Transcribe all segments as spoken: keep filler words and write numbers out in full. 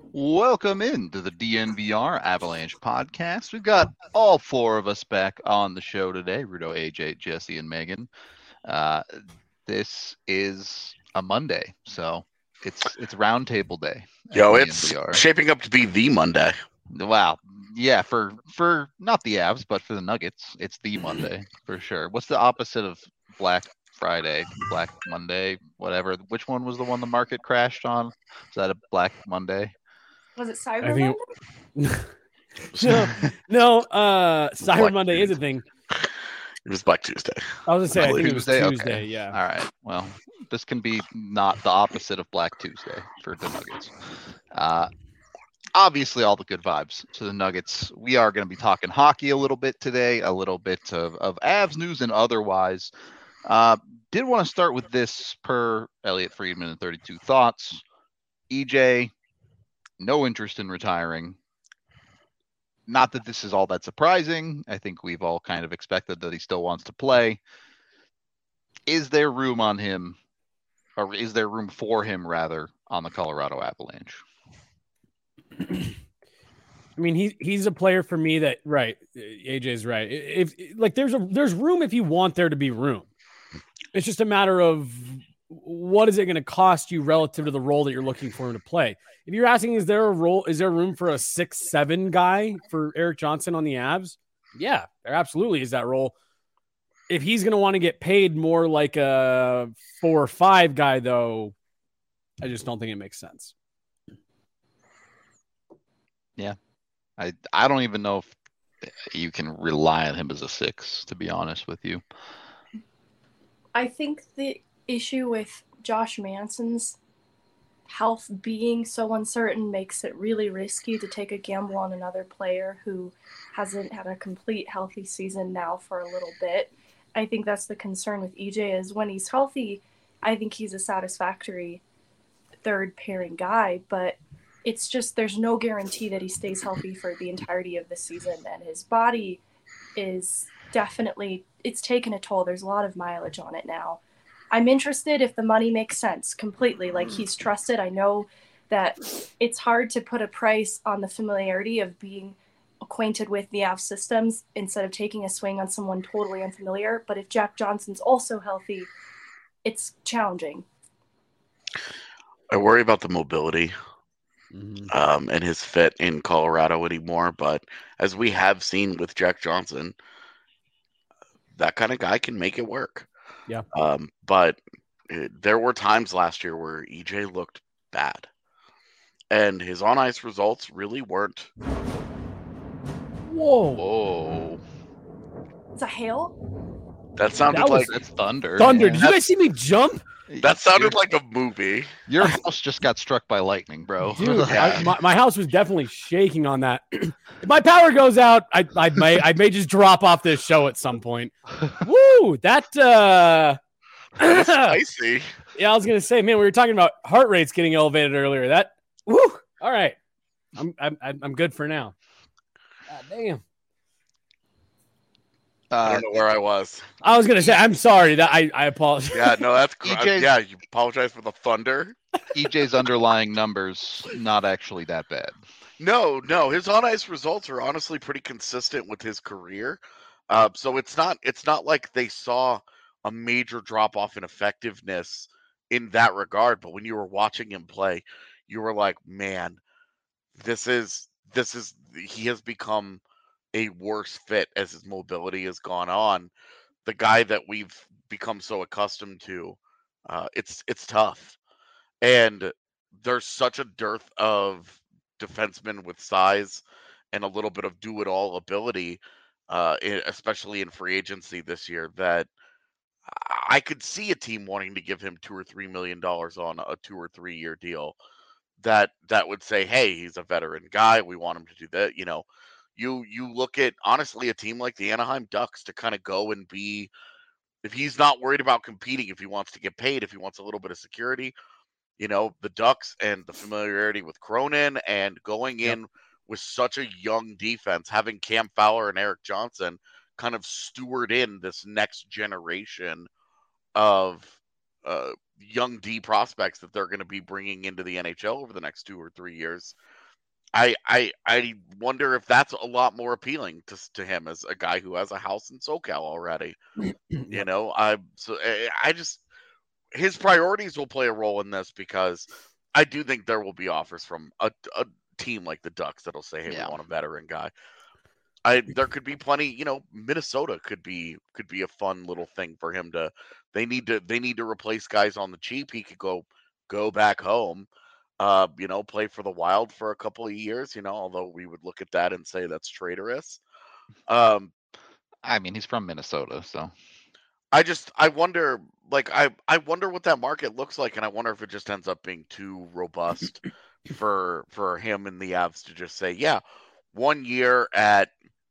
Welcome into the D N V R Avalanche podcast. We've got all four of us back on the show today: Rudo, A J, Jesse, and Megan. Uh, this is a Monday, so it's it's roundtable day at Yo, it's D N V R. shaping up to be the Monday. Wow, yeah, for for not the Avs, but for the Nuggets, it's the Monday for sure. What's the opposite of Black Friday, Black Monday, whatever? Which one was the one the market crashed on? Is that a Black Monday? Was it Cyber I Monday? think no, no. Uh, Cyber Black Monday is a Tuesday. thing. It was Black Tuesday. I was gonna say, I Black think it was Tuesday? Tuesday. Okay. Yeah. All right. Well, this can be not the opposite of Black Tuesday for the Nuggets. Uh, obviously, all the good vibes to the Nuggets. We are going to be talking hockey a little bit today, a little bit of, of Avs news and otherwise. Uh, did want to start with this per Elliot Friedman and thirty-two Thoughts. E J, no interest in retiring. Not that this is all that surprising. I think we've all kind of expected that he still wants to play. Is there room on him, or is there room for him, rather, on the Colorado Avalanche? I mean, he he's a player for me that right. A J's right. If like there's a there's room if you want there to be room. It's just a matter of what is it going to cost you relative to the role that you're looking for him to play. If you're asking, is there a role? Is there room for a six seven guy for Erik Johnson on the Avs? Yeah, there absolutely is that role. If he's going to want to get paid more like a four or five guy, though, I just don't think it makes sense. Yeah, I I don't even know if you can rely on him as a six, to be honest with you. I think the issue with Josh Manson's health being so uncertain makes it really risky to take a gamble on another player who hasn't had a complete healthy season now for a little bit. I think that's the concern with E J is when he's healthy, I think he's a satisfactory third pairing guy, but it's just there's no guarantee that he stays healthy for the entirety of the season, and his body is definitely it's taken a toll. There's a lot of mileage on it now. I'm interested if the money makes sense completely. Like he's trusted. I know that it's hard to put a price on the familiarity of being acquainted with the Avs systems instead of taking a swing on someone totally unfamiliar. But if Jack Johnson's also healthy, it's challenging. I worry about the mobility Mm-hmm. um, and his fit in Colorado anymore. But as we have seen with Jack Johnson, that kind of guy can make it work. Yeah. Um, but it, there were times last year where E J looked bad. And his on ice results really weren't. Whoa. Whoa. It's a hail? That sounded That was- like That's thunder. Thunder. Yeah. Did you guys see me jump? that sounded Your- like a movie. Your house just got struck by lightning, bro. Dude, Yeah. I, my, my house was definitely shaking on that. If my power goes out, I, I may I may just drop off this show at some point. Woo! That uh, That's spicy. yeah, I was gonna say, man, we were talking about heart rates getting elevated earlier. That woo! All right, I'm I'm I'm good for now. God damn. I Uh, don't know where I was. I was gonna say, I'm sorry that I I apologize. Yeah, no, that's E cr- J's yeah. You apologize for the thunder. E J's underlying numbers not actually that bad. No, no, his on ice results are honestly pretty consistent with his career. Uh, so it's not it's not like they saw a major drop off in effectiveness in that regard. But when you were watching him play, you were like, man, this is this is he has become a worse fit as his mobility has gone on. The guy that we've become so accustomed to, uh, it's it's tough, and there's such a dearth of defensemen with size and a little bit of do-it-all ability, uh, e- especially in free agency this year, that I could see a team wanting to give him two or three million dollars on a two or three year deal. That that would say, hey, he's a veteran guy. We want him to do that. You know, you you look at honestly a team like the Anaheim Ducks to kind of go and be if he's not worried about competing, if he wants to get paid, if he wants a little bit of security, you know, the Ducks and the familiarity with Cronin and going Yep. in with such a young defense, having Cam Fowler and Erik Johnson kind of steward in this next generation of uh, young D prospects that they're going to be bringing into the N H L over the next two or three years. I I I wonder if that's a lot more appealing to to him as a guy who has a house in SoCal already. You know, I so I just his priorities will play a role in this because I do think there will be offers from a, a team like the Ducks that'll say, "Hey, Yeah. we want a veteran guy." I there could be plenty, you know, Minnesota could be could be a fun little thing for him to. They need to they need to replace guys on the cheap. He could go go back home, uh, you know, play for the Wild for a couple of years. You know, although we would look at that and say that's traitorous. Um, I mean, he's from Minnesota, so I just I wonder like I I wonder what that market looks like, and I wonder if it just ends up being too robust for for him and the Avs to just say, yeah, one year at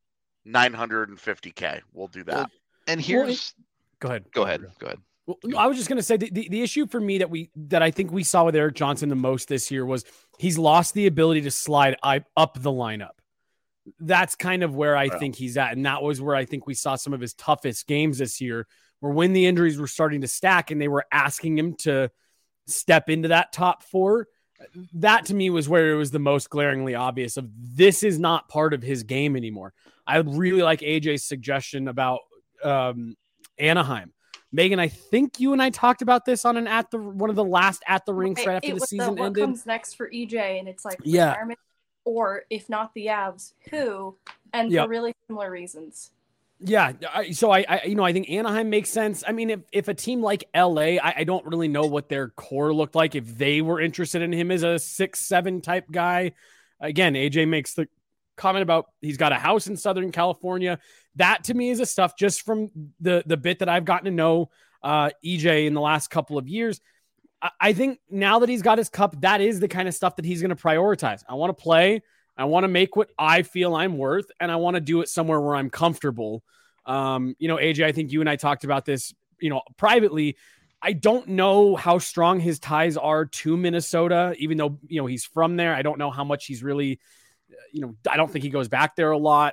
nine hundred fifty K, we'll do that. Well, and Well, here's Go ahead. go ahead, go ahead. Well, no, I was just going to say the, the, the issue for me that we that I think we saw with Erik Johnson the most this year was he's lost the ability to slide I, up the lineup. That's kind of where I Wow. think he's at. And that was where I think we saw some of his toughest games this year, where when the injuries were starting to stack and they were asking him to step into that top four, that to me was where it was the most glaringly obvious of this is not part of his game anymore. I really like A J's suggestion about um, Anaheim. Megan, I think you and I talked about this on an at the one of the last at the rinks right after it the was season what ended. comes next for E J, and it's like Yeah. retirement, or if not the Avs, who, and Yep. for really similar reasons. Yeah, I, so I, I, you know, I think Anaheim makes sense. I mean, if, if a team like L A, I, I don't really know what their core looked like if they were interested in him as a six, seven type guy. Again, A J makes the comment about he's got a house in Southern California. That to me is a stuff just from the the bit that I've gotten to know uh, E J in the last couple of years. I, I think now that he's got his cup, that is the kind of stuff that he's going to prioritize. I want to play. I want to make what I feel I'm worth, and I want to do it somewhere where I'm comfortable. Um, you know, A J, I think you and I talked about this, you know, privately. I don't know how strong his ties are to Minnesota, even though, you know, he's from there. I don't know how much he's really, you know, I don't think he goes back there a lot.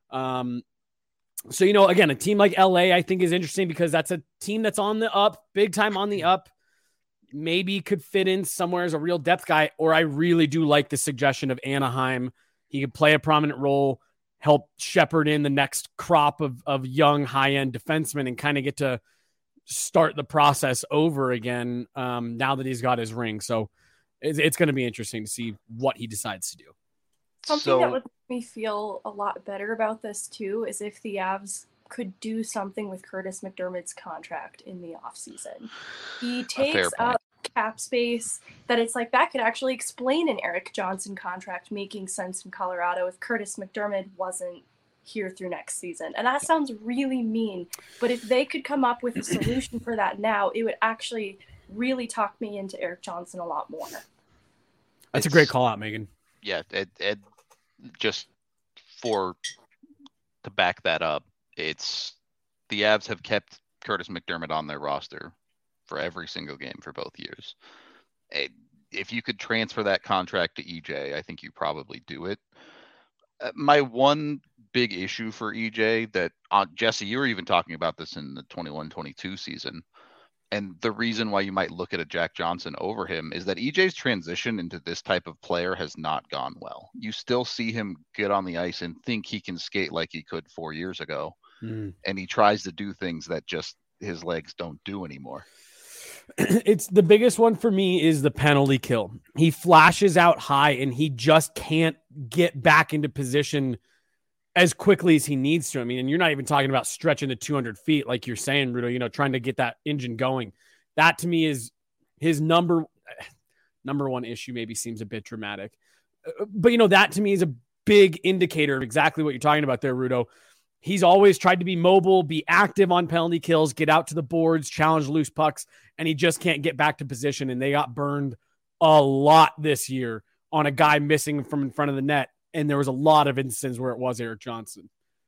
Um, so, you know, again, a team like L A, I think is interesting because that's a team that's on the up, big time on the up. Maybe could fit in somewhere as a real depth guy, or I really do like the suggestion of Anaheim. He could play a prominent role, help shepherd in the next crop of, of young high-end defensemen and kind of get to start the process over again um, now that he's got his ring. So it's, it's going to be interesting to see what he decides to do. Something So- that would make me feel a lot better about this too is if the Avs could do something with Curtis McDermott's contract in the offseason. He takes point. up cap space that it's like that could actually explain an Erik Johnson contract making sense in Colorado if Curtis McDermott wasn't here through next season. And that sounds really mean, but if they could come up with a solution for that now, it would actually really talk me into Erik Johnson a lot more. That's a It's- great call out, Megan. Yeah, it, it just for to back that up, it's the Avs have kept Curtis McDermott on their roster for every single game for both years. It, if you could transfer that contract to E J, I think you probably do it. Uh, my one big issue for E J that uh, Jesse, you were even talking about this in the twenty-one twenty-two season. And the reason why you might look at a Jack Johnson over him is that E J's transition into this type of player has not gone well. You still see him get on the ice and think he can skate like he could four years ago. Mm. And he tries to do things that just his legs don't do anymore. It's the biggest one for me is the penalty kill. He flashes out high and he just can't get back into position as quickly as he needs to. I mean, and you're not even talking about stretching the two hundred feet, like you're saying, Rudo, you know, trying to get that engine going. That to me is his number, number one issue. Maybe seems a bit dramatic, but you know, that to me is a big indicator of exactly what you're talking about there, Rudo. He's always tried to be mobile, be active on penalty kills, get out to the boards, challenge loose pucks, and he just can't get back to position. And they got burned a lot this year on a guy missing from in front of the net. And there was a lot of instances where it was Erik Johnson.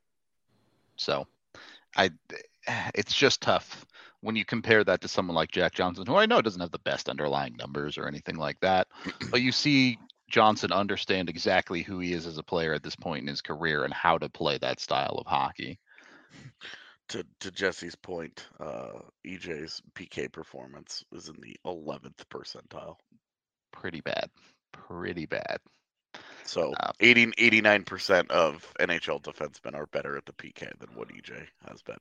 So I, it's just tough when you compare that to someone like Jack Johnson, who I know doesn't have the best underlying numbers or anything like that, but you see Johnson understand exactly who he is as a player at this point in his career and how to play that style of hockey. to to Jesse's point, uh, E J's P K performance is in the eleventh percentile. Pretty bad. Pretty bad. So Um, eighty, eighty-nine percent of N H L defensemen are better at the P K than what E J has been.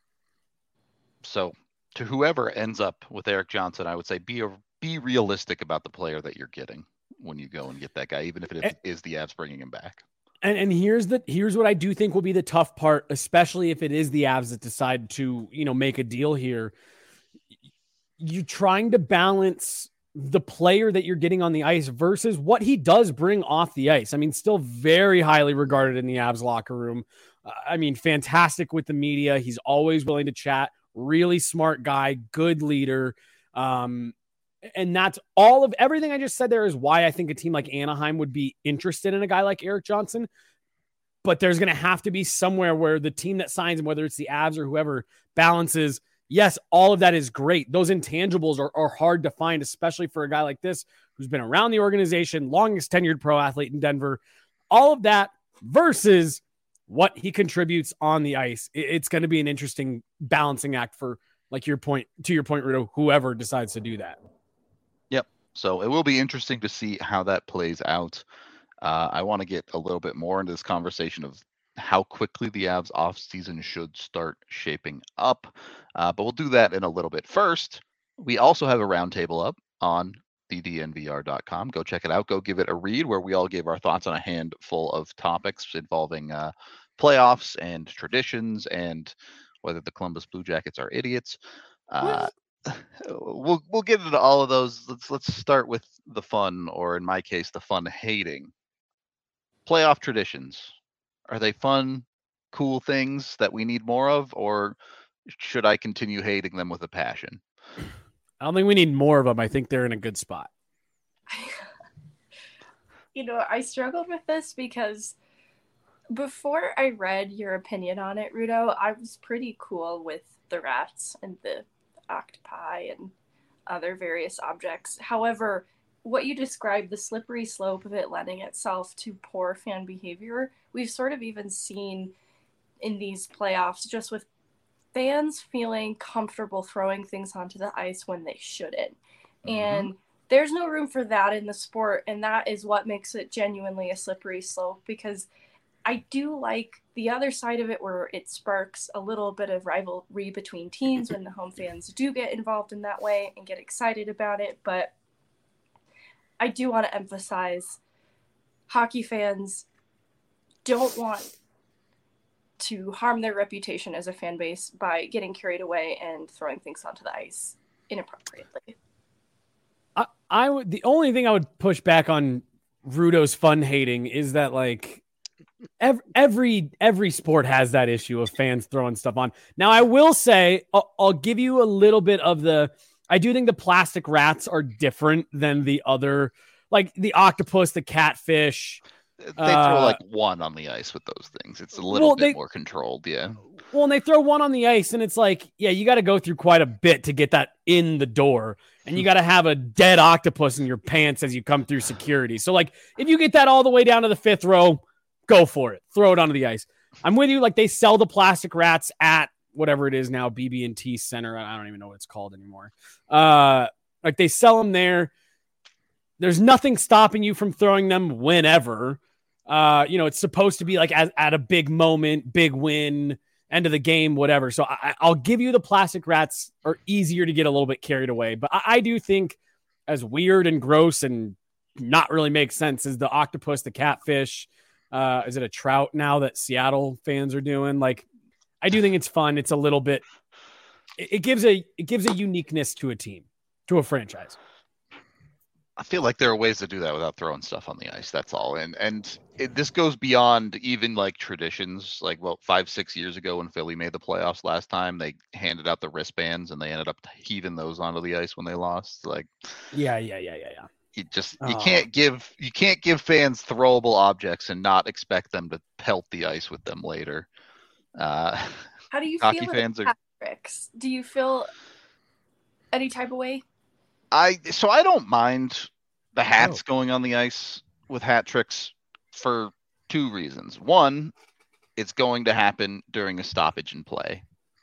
So to whoever ends up with Erik Johnson, I would say be a, be realistic about the player that you're getting when you go and get that guy, even if it and, is the Avs bringing him back. And and here's the here's what I do think will be the tough part, especially if it is the Avs that decide to, you know, make a deal here. You're trying to balance the player that you're getting on the ice versus what he does bring off the ice. I mean, still very highly regarded in the Avs locker room. Uh, I mean, fantastic with the media. He's always willing to chat. Really smart guy, good leader. Um, and that's all of everything I just said there is why I think a team like Anaheim would be interested in a guy like Erik Johnson. But there's going to have to be somewhere where the team that signs him, whether it's the Avs or whoever, balances. Yes, all of that is great. Those intangibles are, are hard to find, especially for a guy like this who's been around the organization, longest tenured pro athlete in Denver. All of that versus what he contributes on the ice. It, it's going to be an interesting balancing act for, like your point, to your point, Rudo, whoever decides to do that. Yep. So it will be interesting to see how that plays out. Uh, I want to get a little bit more into this conversation of how quickly the Avs offseason should start shaping up. Uh, but we'll do that in a little bit. First, we also have a roundtable up on the D N V R dot com. Go check it out. Go give it a read where we all give our thoughts on a handful of topics involving uh, playoffs and traditions and whether the Columbus Blue Jackets are idiots. Uh, we'll we'll get into all of those. Let's let's start with the fun, or in my case, the fun hating. Playoff traditions. Are they fun, cool things that we need more of, or should I continue hating them with a passion? I don't think we need more of them. I think they're in a good spot. You know, I struggled with this because before I read your opinion on it, Rudo, I was pretty cool with the rats and the octopi and other various objects. However, what you described, the slippery slope of it lending itself to poor fan behavior, we've sort of even seen in these playoffs, just with fans feeling comfortable throwing things onto the ice when they shouldn't. Mm-hmm. And there's no room for that in the sport, and that is what makes it genuinely a slippery slope, because I do like the other side of it where it sparks a little bit of rivalry between teams when the home fans do get involved in that way and get excited about it. But I do want to emphasize hockey fans don't want to harm their reputation as a fan base by getting carried away and throwing things onto the ice inappropriately. I, I would, the only thing I would push back on Rudo's fun hating is that, like, every, every, every sport has that issue of fans throwing stuff on. Now, I will say, I'll, I'll give you a little bit of the, I do think the plastic rats are different than the other, like the octopus, the catfish. They throw uh, like one on the ice with those things. It's a little well, bit they, more controlled, yeah. Well, and they throw one on the ice, and it's like, yeah, you got to go through quite a bit to get that in the door, and you got to have a dead octopus in your pants as you come through security. So, like, if you get that all the way down to the fifth row, go for it. Throw it onto the ice. I'm with you. Like, they sell the plastic rats at whatever it is now, B B and T Center. I don't even know what it's called anymore. Uh, like, they sell them there. There's nothing stopping you from throwing them whenever. Uh, you know, it's supposed to be like at, at a big moment, big win, end of the game, whatever. So I, I'll give you the plastic rats are easier to get a little bit carried away. But I, I do think, as weird and gross and not really makes sense as the octopus, the catfish, uh, is it a trout now that Seattle fans are doing? Like, I do think it's fun. It's a little bit, it, it gives a, it gives a uniqueness to a team, to a franchise. I feel like there are ways to do that without throwing stuff on the ice. That's all. And and it, this goes beyond even like traditions. Like, well, five, six years ago when Philly made the playoffs last time, they handed out the wristbands and they ended up heaving those onto the ice when they lost. Like, yeah, yeah, yeah, yeah, yeah. You just oh. you can't give you can't give fans throwable objects and not expect them to pelt the ice with them later. Uh, How do you hockey feel fans about are... tricks? Do you feel any type of way? I so I don't mind the hats oh. going on the ice with hat tricks for two reasons. One, it's going to happen during a stoppage in play.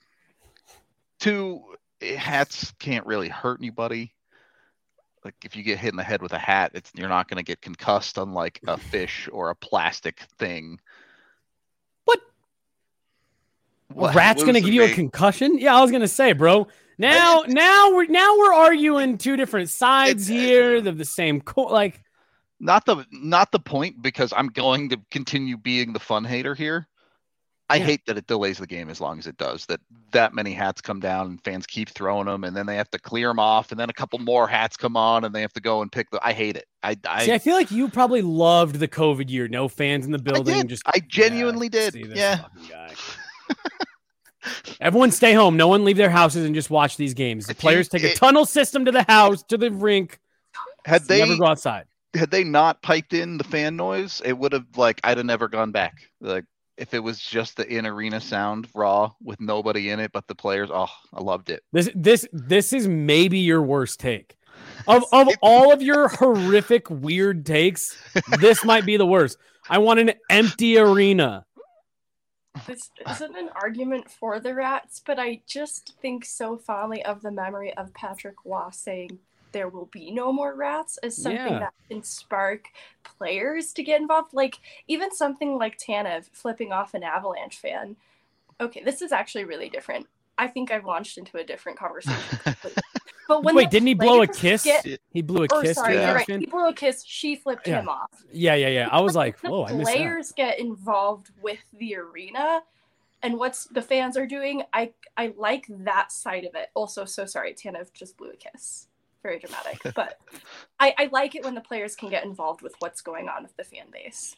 Two, hats can't really hurt anybody. Like if you get hit in the head with a hat, it's you're not going to get concussed, unlike a fish or a plastic thing. What? What? A rat's gonna give you a concussion? Yeah, I was gonna say, bro. Now, now we're now we're arguing two different sides It- here of the same co- like. Not the not the point, because I'm going to continue being the fun hater here. I Yeah. hate that it delays the game as long as it does. That that many hats come down and fans keep throwing them, and then they have to clear them off, and then a couple more hats come on, and they have to go and pick the. I hate it. I I, See, I feel like you probably loved the COVID year. No fans in the I building. did. Just I genuinely yeah, did. see this Yeah. fucking guy. Everyone stay home. No one leave their houses and just watch these games. The If you- players take a it- tunnel system to the house, to the rink. Had they Never go outside. had they not piped in the fan noise, it would have like I'd have never gone back. Like if it was just the in arena sound raw with nobody in it but the players, oh, I loved it. This this this is maybe your worst take. Of of all of your horrific weird takes, this might be the worst. I want an empty arena. This isn't an argument for the Rats, but I just think so fondly of the memory of Patrick Waugh saying there will be no more Rats as something Yeah. that can spark players to get involved. Like even something like Tanev flipping off an Avalanche fan. Okay, this is actually really different. I think I've launched into a different conversation completely. But when Wait, the didn't he blow a players kiss? get- He blew a or kiss. sorry, to Yeah. you're the right. fan? He blew a kiss. She flipped Yeah. him off. Yeah, yeah, yeah. I was like, The whoa, I missed that. players get involved with the arena and what's the fans are doing. I I like that side of it. Also, so sorry, Tanev just blew a kiss. Very dramatic, but I, I like it when the players can get involved with what's going on with the fan base.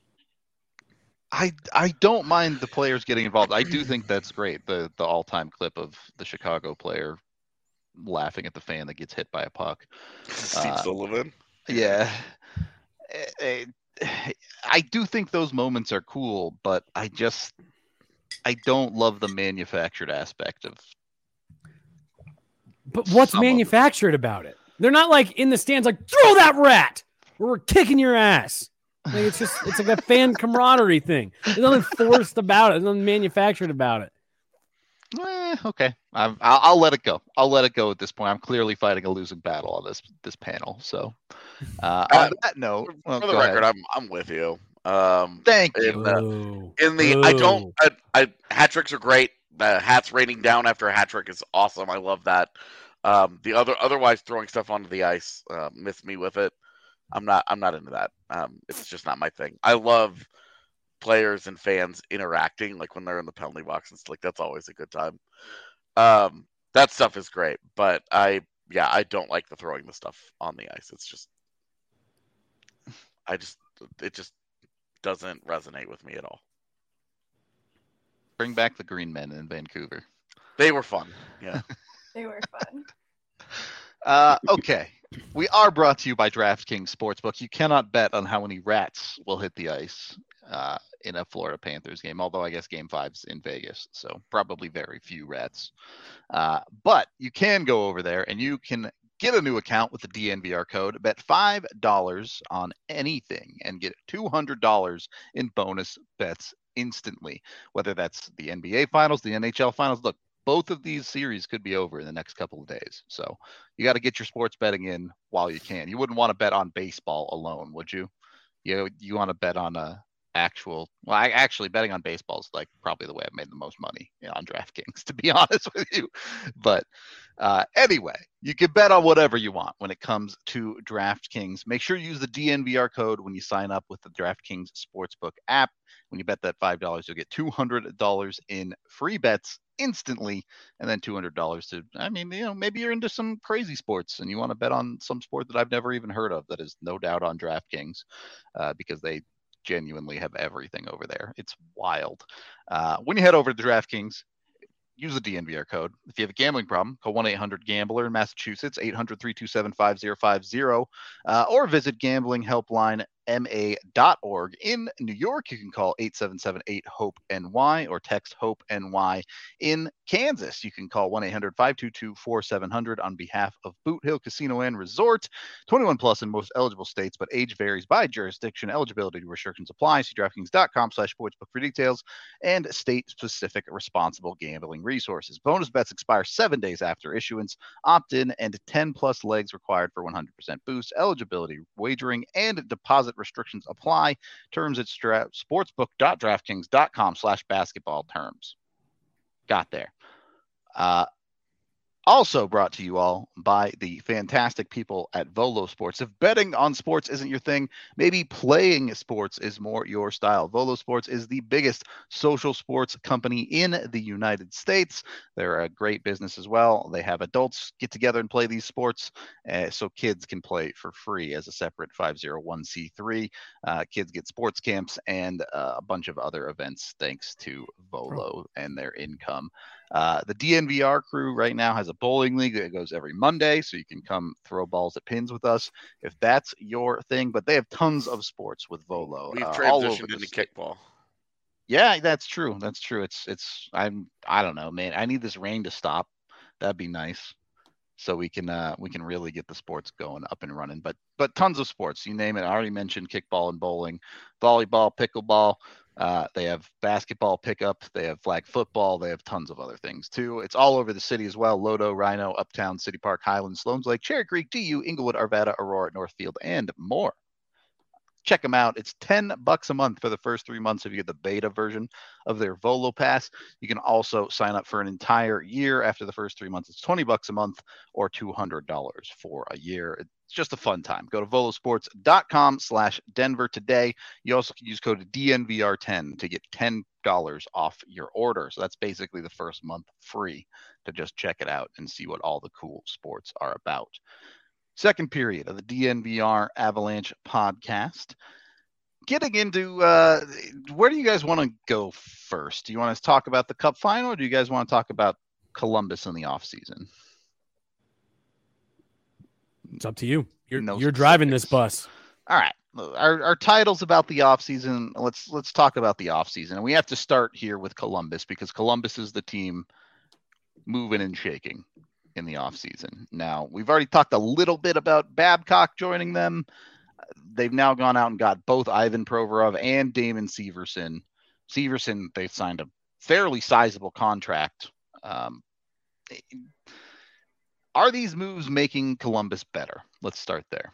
I I don't mind the players getting involved. I do think that's great. The the all time clip of the Chicago player laughing at the fan that gets hit by a puck. Steve Uh, Sullivan. Yeah. Eh, eh, I do think those moments are cool, but I just I don't love the manufactured aspect of. But what's Some of them. manufactured about it? They're not like in the stands like, throw that rat, or we're kicking your ass. Like it's just it's like a fan camaraderie thing. There's nothing forced about it. There's nothing manufactured about it. Eh, okay, I'm, I'll, I'll let it go. I'll let it go at this point. I'm clearly fighting a losing battle on this this panel. So, uh, Uh, on that note, well, For the go record, ahead. I'm I'm with you. Um, Thank you. in the, Boo. in the I don't Boo. I, I hat tricks are great. The hats raining down after a hat trick is awesome. I love that. Um, the other otherwise throwing stuff onto the ice, uh, miss me with it. I'm not I'm not into that. Um, it's just not my thing. I love players and fans interacting, like when they're in the penalty box and stuff. Like that's always a good time. Um, that stuff is great, but I yeah I don't like the throwing the stuff on the ice. It's just I just it just doesn't resonate with me at all. Bring back the Green Men in Vancouver. They were fun. Yeah. They were fun. Uh, okay. We are brought to you by DraftKings Sportsbook. You cannot bet on how many rats will hit the ice uh, in a Florida Panthers game, although I guess game five's in Vegas, so probably very few rats. Uh, but you can go over there and you can get a new account with the D N V R code, bet five dollars on anything, and get two hundred dollars in bonus bets instantly, whether that's the N B A Finals, the N H L Finals. Look, both of these series could be over in the next couple of days. So you got to get your sports betting in while you can. You wouldn't want to bet on baseball alone, would you? You you want to bet on a actual. Well, I, actually, betting on baseball is like probably the way I've made the most money, you know, on DraftKings, to be honest with you. But uh, anyway, you can bet on whatever you want when it comes to DraftKings. Make sure you use the D N V R code when you sign up with the DraftKings Sportsbook app. When you bet that five dollars, you'll get two hundred dollars in free bets instantly, and then two hundred dollars to, I mean, you know, maybe you're into some crazy sports and you want to bet on some sport that I've never even heard of that is no doubt on DraftKings uh, because they genuinely have everything over there. It's wild. Uh, when you head over to DraftKings, use the D N V R code. If you have a gambling problem, call one eight hundred gambler in Massachusetts, eight hundred, three two seven, five zero five zero, uh, or visit gambling helpline m a dot org. In New York, you can call eight seven seven eight hope N Y or text HOPE-N-Y. In Kansas, you can call one eight hundred five two two four seven zero zero on behalf of Boot Hill Casino and Resort. twenty-one plus in most eligible states, but age varies by jurisdiction. Eligibility restrictions apply. See DraftKings.com slash sportsbook for details and state-specific responsible gambling resources. Bonus bets expire seven days after issuance. Opt-in and ten plus legs required for one hundred percent boost. Eligibility, wagering, and deposit restrictions apply. Terms at stra- sportsbook.draftkings.com slash basketball terms. Got there. Uh, Also brought to you all by the fantastic people at Volo Sports. If betting on sports isn't your thing, maybe playing sports is more your style. Volo Sports is the biggest social sports company in the United States. They're a great business as well. They have adults get together and play these sports uh, so kids can play for free as a separate five oh one c three. Uh, kids get sports camps and uh, a bunch of other events thanks to Volo and their income. Uh, the D N V R crew right now has a bowling league that goes every Monday, so you can come throw balls at pins with us if that's your thing. But they have tons of sports with Volo. We've uh, transitioned all over the into state. kickball. Yeah, that's true. That's true. It's it's I'm I don't know, man. I need this rain to stop. That'd be nice, so we can uh, we can really get the sports going up and running. But but tons of sports, you name it. I already mentioned kickball and bowling, volleyball, pickleball. Uh, they have basketball pickup. They have flag football. They have tons of other things too. It's all over the city as well. Lodo, Rhino, Uptown, City Park, Highlands, Sloan's Lake, Cherry Creek, D U, Inglewood, Arvada, Aurora, Northfield, and more. Check them out. It's ten bucks a month for the first three months if you get the beta version of their Volo Pass. You can also sign up for an entire year after the first three months. It's twenty bucks a month or two hundred dollars for a year. It's just a fun time. Go to volosports.com slash Denver today. You also can use code D N V R ten to get ten dollars off your order. So that's basically the first month free to just check it out and see what all the cool sports are about. Second period of the D N V R Avalanche podcast. Getting into uh, where do you guys want to go first? Do you want to talk about the Cup final, or do you guys want to talk about Columbus in the offseason? It's up to you. You're No you're driving this specifics. bus. All right. Our our title's about the offseason. Let's let's talk about the offseason. And we have to start here with Columbus because Columbus is the team moving and shaking in the offseason. Now, we've already talked a little bit about Babcock joining them. They've now gone out and got both Ivan Provorov and Damon Severson. Severson, they signed a fairly sizable contract. Um, are these moves making Columbus better? Let's start there.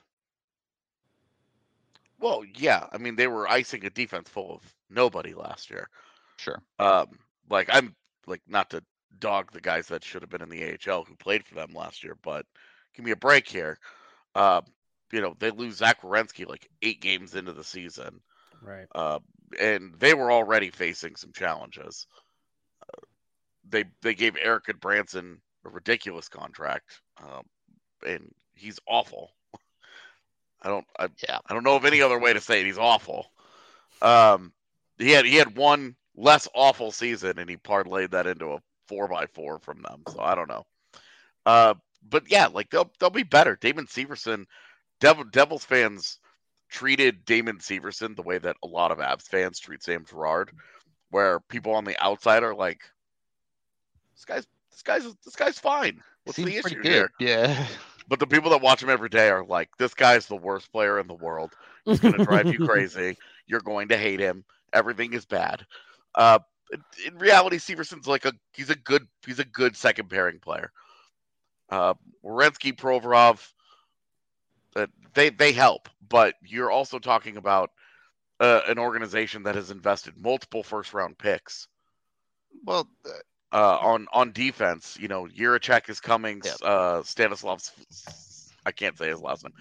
Well, yeah. I mean, they were icing a defense full of nobody last year. Sure. Um, like I'm like not to dog the guys that should have been in the A H L who played for them last year, but give me a break here. Uh, you know, they lose Zach Werenski like eight games into the season. Right. Uh, and they were already facing some challenges. Uh, they they gave Eric Goodbranson a ridiculous contract, um, and he's awful. I don't I, Yeah. I don't know of any other way to say it. He's awful. Um, he had he had one less awful season, and he parlayed that into a four by four from them. So I don't know. Uh, but yeah, like they'll they'll be better. Damon Severson, Devil, Devils fans treated Damon Severson the way that a lot of Avs fans treat Sam Girard, where people on the outside are like, "This guy's this guy's this guy's fine. What's Seems the pretty issue good. here?" Yeah. But the people that watch him every day are like, "This guy's the worst player in the world. He's going to drive you crazy. You're going to hate him. Everything is bad." Uh, in reality, Severson's like a he's a good he's a good second pairing player. Uh, Werenski, Provorov, uh, they they help, but you're also talking about uh, an organization that has invested multiple first round picks. Well, uh, on on defense, you know, Jiricek is coming. Yeah. Uh, Stanislav, I can't say his last name.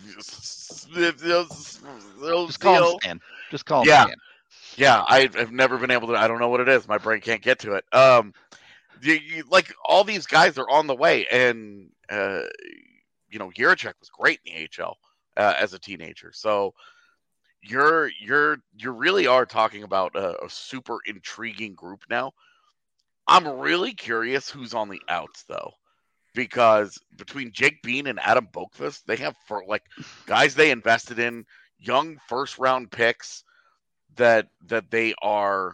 just call him Stan. Just call him Yeah. Stan. Yeah, I've, I've never been able to. I don't know what it is. My brain can't get to it. Um, you, you, like all these guys are on the way, and uh, you know, Jiricek was great in the A H L uh, as a teenager. So you're you're you really are talking about a, a super intriguing group now. I'm really curious who's on the outs though, because between Jake Bean and Adam Boqvist, they have for like guys they invested in. young first round picks that that they are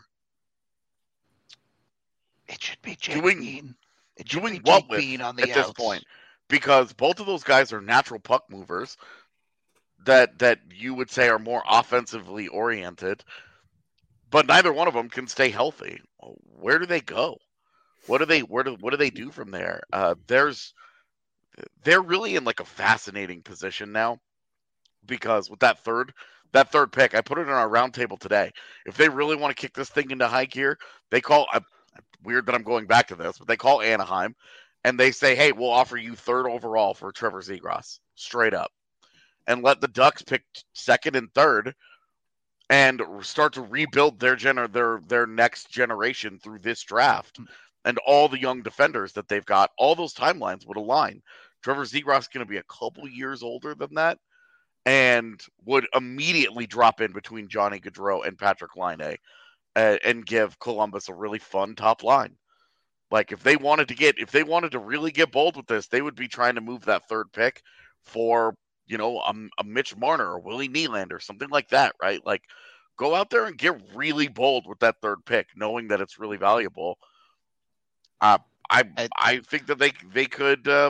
It should be Jake doing Bean. It should doing be what Jake with Bean on the at this outs. point, because both of those guys are natural puck movers that that you would say are more offensively oriented, but neither one of them can stay healthy. Where do they go? What do they where do what do they do from there? Uh, there's they're really in like a fascinating position now, because with that third that third pick, I put it in our roundtable today. If they really want to kick this thing into high gear, they call. Uh, weird that I'm going back to this, but they call Anaheim and they say, "Hey, we'll offer you third overall for Trevor Zegras, straight up," and let the Ducks pick second and third and start to rebuild their gener- their their next generation through this draft. And all the young defenders that they've got, all those timelines would align. Trevor Zegras is going to be a couple years older than that, and would immediately drop in between Johnny Gaudreau and Patrick Laine, uh, and give Columbus a really fun top line. Like if they wanted to get, if they wanted to really get bold with this, they would be trying to move that third pick for, you know, a, a Mitch Marner or Willie Nylander, something like that, right? Like go out there and get really bold with that third pick, knowing that it's really valuable. Uh, I I think that they they could uh,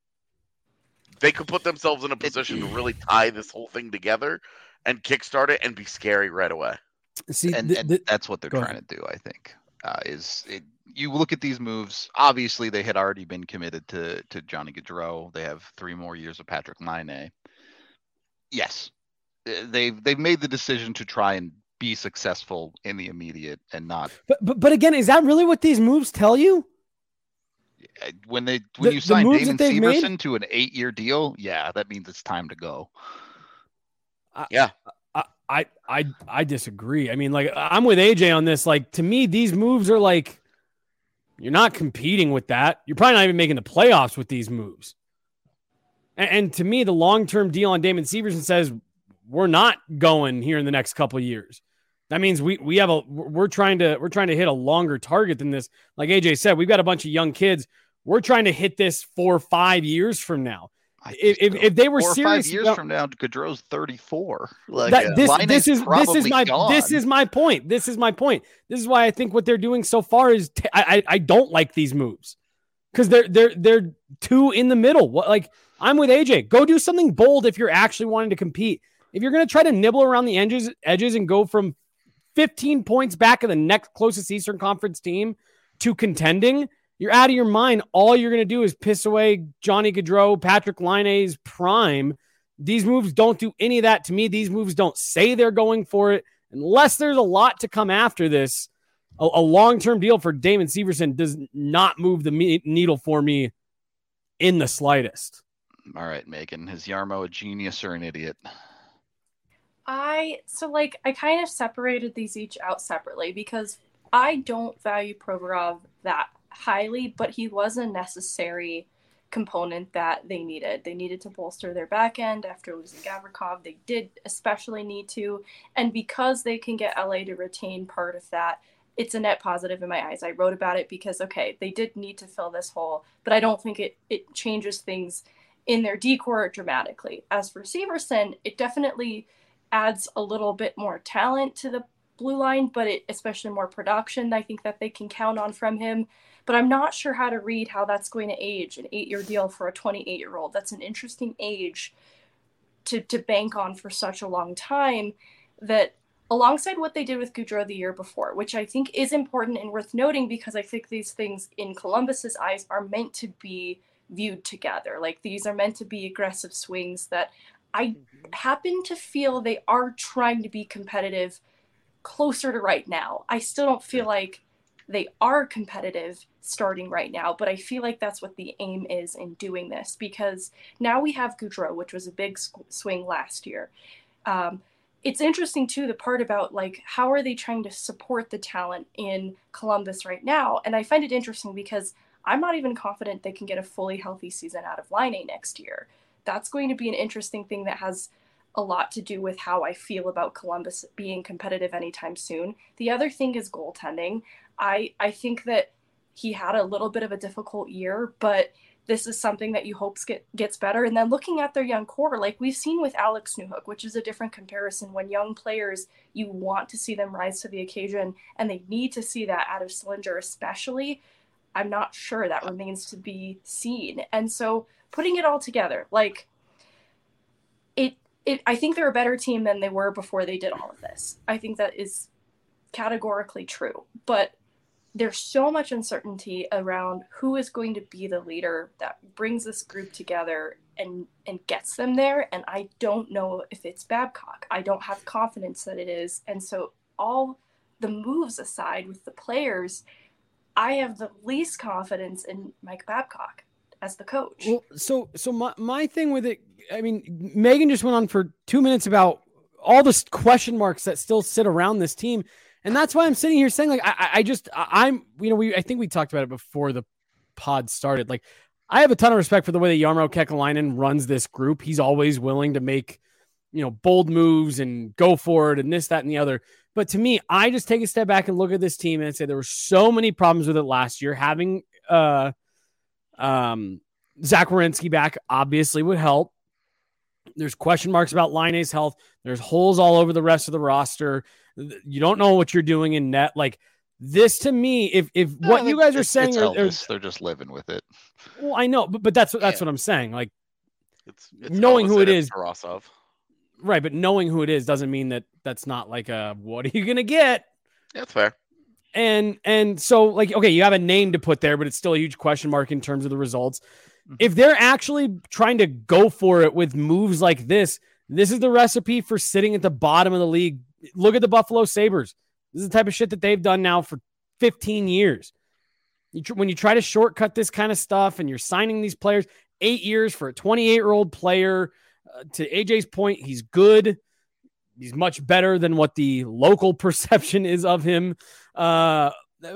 they could put themselves in a position to really tie this whole thing together and kickstart it and be scary right away. See, and, th- and th- that's what they're go trying ahead. to do. I think uh, is it, you look at these moves. Obviously, they had already been committed to to Johnny Gaudreau. They have three more years of Patrick Laine. Yes, they've they've made the decision to try and be successful in the immediate and not. But but, but again, is that really what these moves tell you? When they when The- you the sign moves Damon that they've made? Severson to an eight-year deal, yeah, that means it's time to go. Yeah. I, I I I disagree. I mean, like I'm with A J on this. Like to me, these moves are like you're not competing with that. You're probably not even making the playoffs with these moves. And, and to me, the long-term deal on Damon Severson says we're not going here in the next couple of years. That means we we have a we're trying to we're trying to hit a longer target than this. Like A J said, we've got a bunch of young kids. We're trying to hit this for five years from now. I If, if, if they were Four or serious five years about, from now, Gaudreau's thirty-four. Like that, uh, this, Laine's this is this is probably my gone. this is my point. This is my point. This is why I think what they're doing so far is t- I, I I don't like these moves because they're they're they're too in the middle. What like I'm with A J. Go do something bold if you're actually wanting to compete. If you're going to try to nibble around the edges edges and go from fifteen points back of the next closest Eastern Conference team to contending, you're out of your mind. All you're going to do is piss away Johnny Gaudreau, Patrick Laine's prime. These moves don't do any of that to me. These moves don't say they're going for it. Unless there's a lot to come after this, a, a long-term deal for Damon Severson does not move the me- needle for me in the slightest. All right, Megan. Is Yarmo a genius or an idiot? I so like I kind of separated these each out separately because I don't value Provorov that highly, but he was a necessary component that they needed. They needed to bolster their back end after losing Gavrikov. They did especially need to, and because they can get L A to retain part of that, it's a net positive in my eyes. I wrote about it because okay, they did need to fill this hole, but I don't think it it changes things in their decor dramatically. As for Severson, it definitely adds a little bit more talent to the blue line, but it especially more production I think that they can count on from him. But I'm not sure how to read how that's going to age. An eight-year deal for a twenty-eight-year-old. That's an interesting age to, to bank on for such a long time, that alongside what they did with Gaudreau the year before, which I think is important and worth noting because I think these things in Columbus's eyes are meant to be viewed together. Like these are meant to be aggressive swings that I happen to feel they are trying to be competitive closer to right now. I still don't feel like they are competitive starting right now, but I feel like that's what the aim is in doing this, because now we have Gaudreau, which was a big swing last year. Um, it's interesting too, the part about like, how are they trying to support the talent in Columbus right now? And I find it interesting because I'm not even confident they can get a fully healthy season out of Laine next year. That's going to be an interesting thing that has a lot to do with how I feel about Columbus being competitive anytime soon. The other thing is goaltending. I, I think that he had a little bit of a difficult year, but this is something that you hope get, gets better. And then looking at their young core, like we've seen with Alex Newhook, which is a different comparison. When young players, you want to see them rise to the occasion, and they need to see that out of Sillinger especially. I'm not sure that remains to be seen. And so putting it all together, like it, it, I think they're a better team than they were before they did all of this. I think that is categorically true. But there's so much uncertainty around who is going to be the leader that brings this group together and and gets them there. And I don't know if it's Babcock. I don't have confidence that it is. And so all the moves aside with the players, I have the least confidence in Mike Babcock as the coach. Well, so so my, my thing with it, I mean, Megan just went on for two minutes about all the question marks that still sit around this team. And that's why I'm sitting here saying, like, I, I just, I'm, you know, we, I think we talked about it before the pod started. Like, I have a ton of respect for the way that Jarmo Kekalainen runs this group. He's always willing to make, you know, bold moves and go for it and this, that, and the other. But to me, I just take a step back and look at this team and say there were so many problems with it last year. Having uh, um, Zach Werenski back obviously would help. There's question marks about Laine's health. There's holes all over the rest of the roster. You don't know what you're doing in net. Like this to me, if if No, what you guys are it's, saying, it's are, Elvis. They're just living with it. Well, I know, but but that's that's Yeah. what I'm saying. Like It's, it's knowing who it is, Tarasov. right? But knowing who it is doesn't mean that that's not like a what are you gonna get? Yeah, that's fair. And and so like okay, you have a name to put there, but it's still a huge question mark in terms of the results. If they're actually trying to go for it with moves like this, this is the recipe for sitting at the bottom of the league. Look at the Buffalo Sabres. This is the type of shit that they've done now for fifteen years. You tr- when you try to shortcut this kind of stuff and you're signing these players, eight years for a twenty-eight-year-old player, uh, to A J's point, he's good. He's much better than what the local perception is of him. Uh,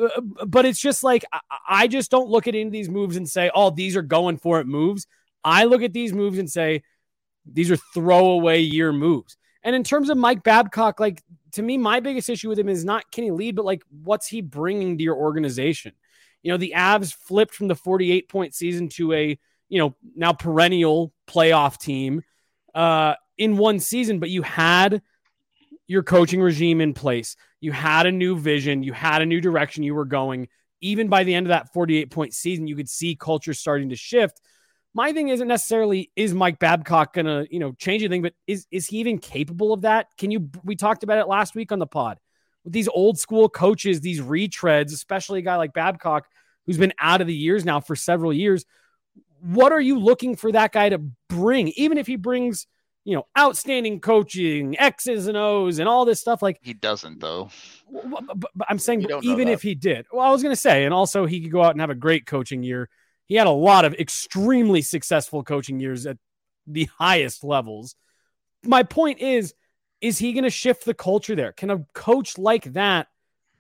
but it's just like, I, I just don't look at any of these moves and say, oh, these are going for it moves. I look at these moves and say, these are throwaway year moves. And in terms of Mike Babcock, like to me, my biggest issue with him is not can he lead, but like what's he bringing to your organization? You know, the Avs flipped from the forty-eight point season to a, you know, now perennial playoff team uh, in one season, but you had your coaching regime in place. You had a new vision. You had a new direction you were going. Even by the end of that forty-eight point season, you could see culture starting to shift. My thing isn't necessarily, is Mike Babcock going to, you know, change anything, but is, is he even capable of that? Can you, we talked about it last week on the pod with these old school coaches, these retreads, especially a guy like Babcock, who's been out of the years now for several years. What are you looking for that guy to bring? Even if he brings, you know, outstanding coaching, X's and O's and all this stuff, like He doesn't though. but, but I'm saying, You but don't know even that. if he did, well, I was going to say, and also he could go out and have a great coaching year. He had a lot of extremely successful coaching years at the highest levels. My point is, is he going to shift the culture there? Can a coach like that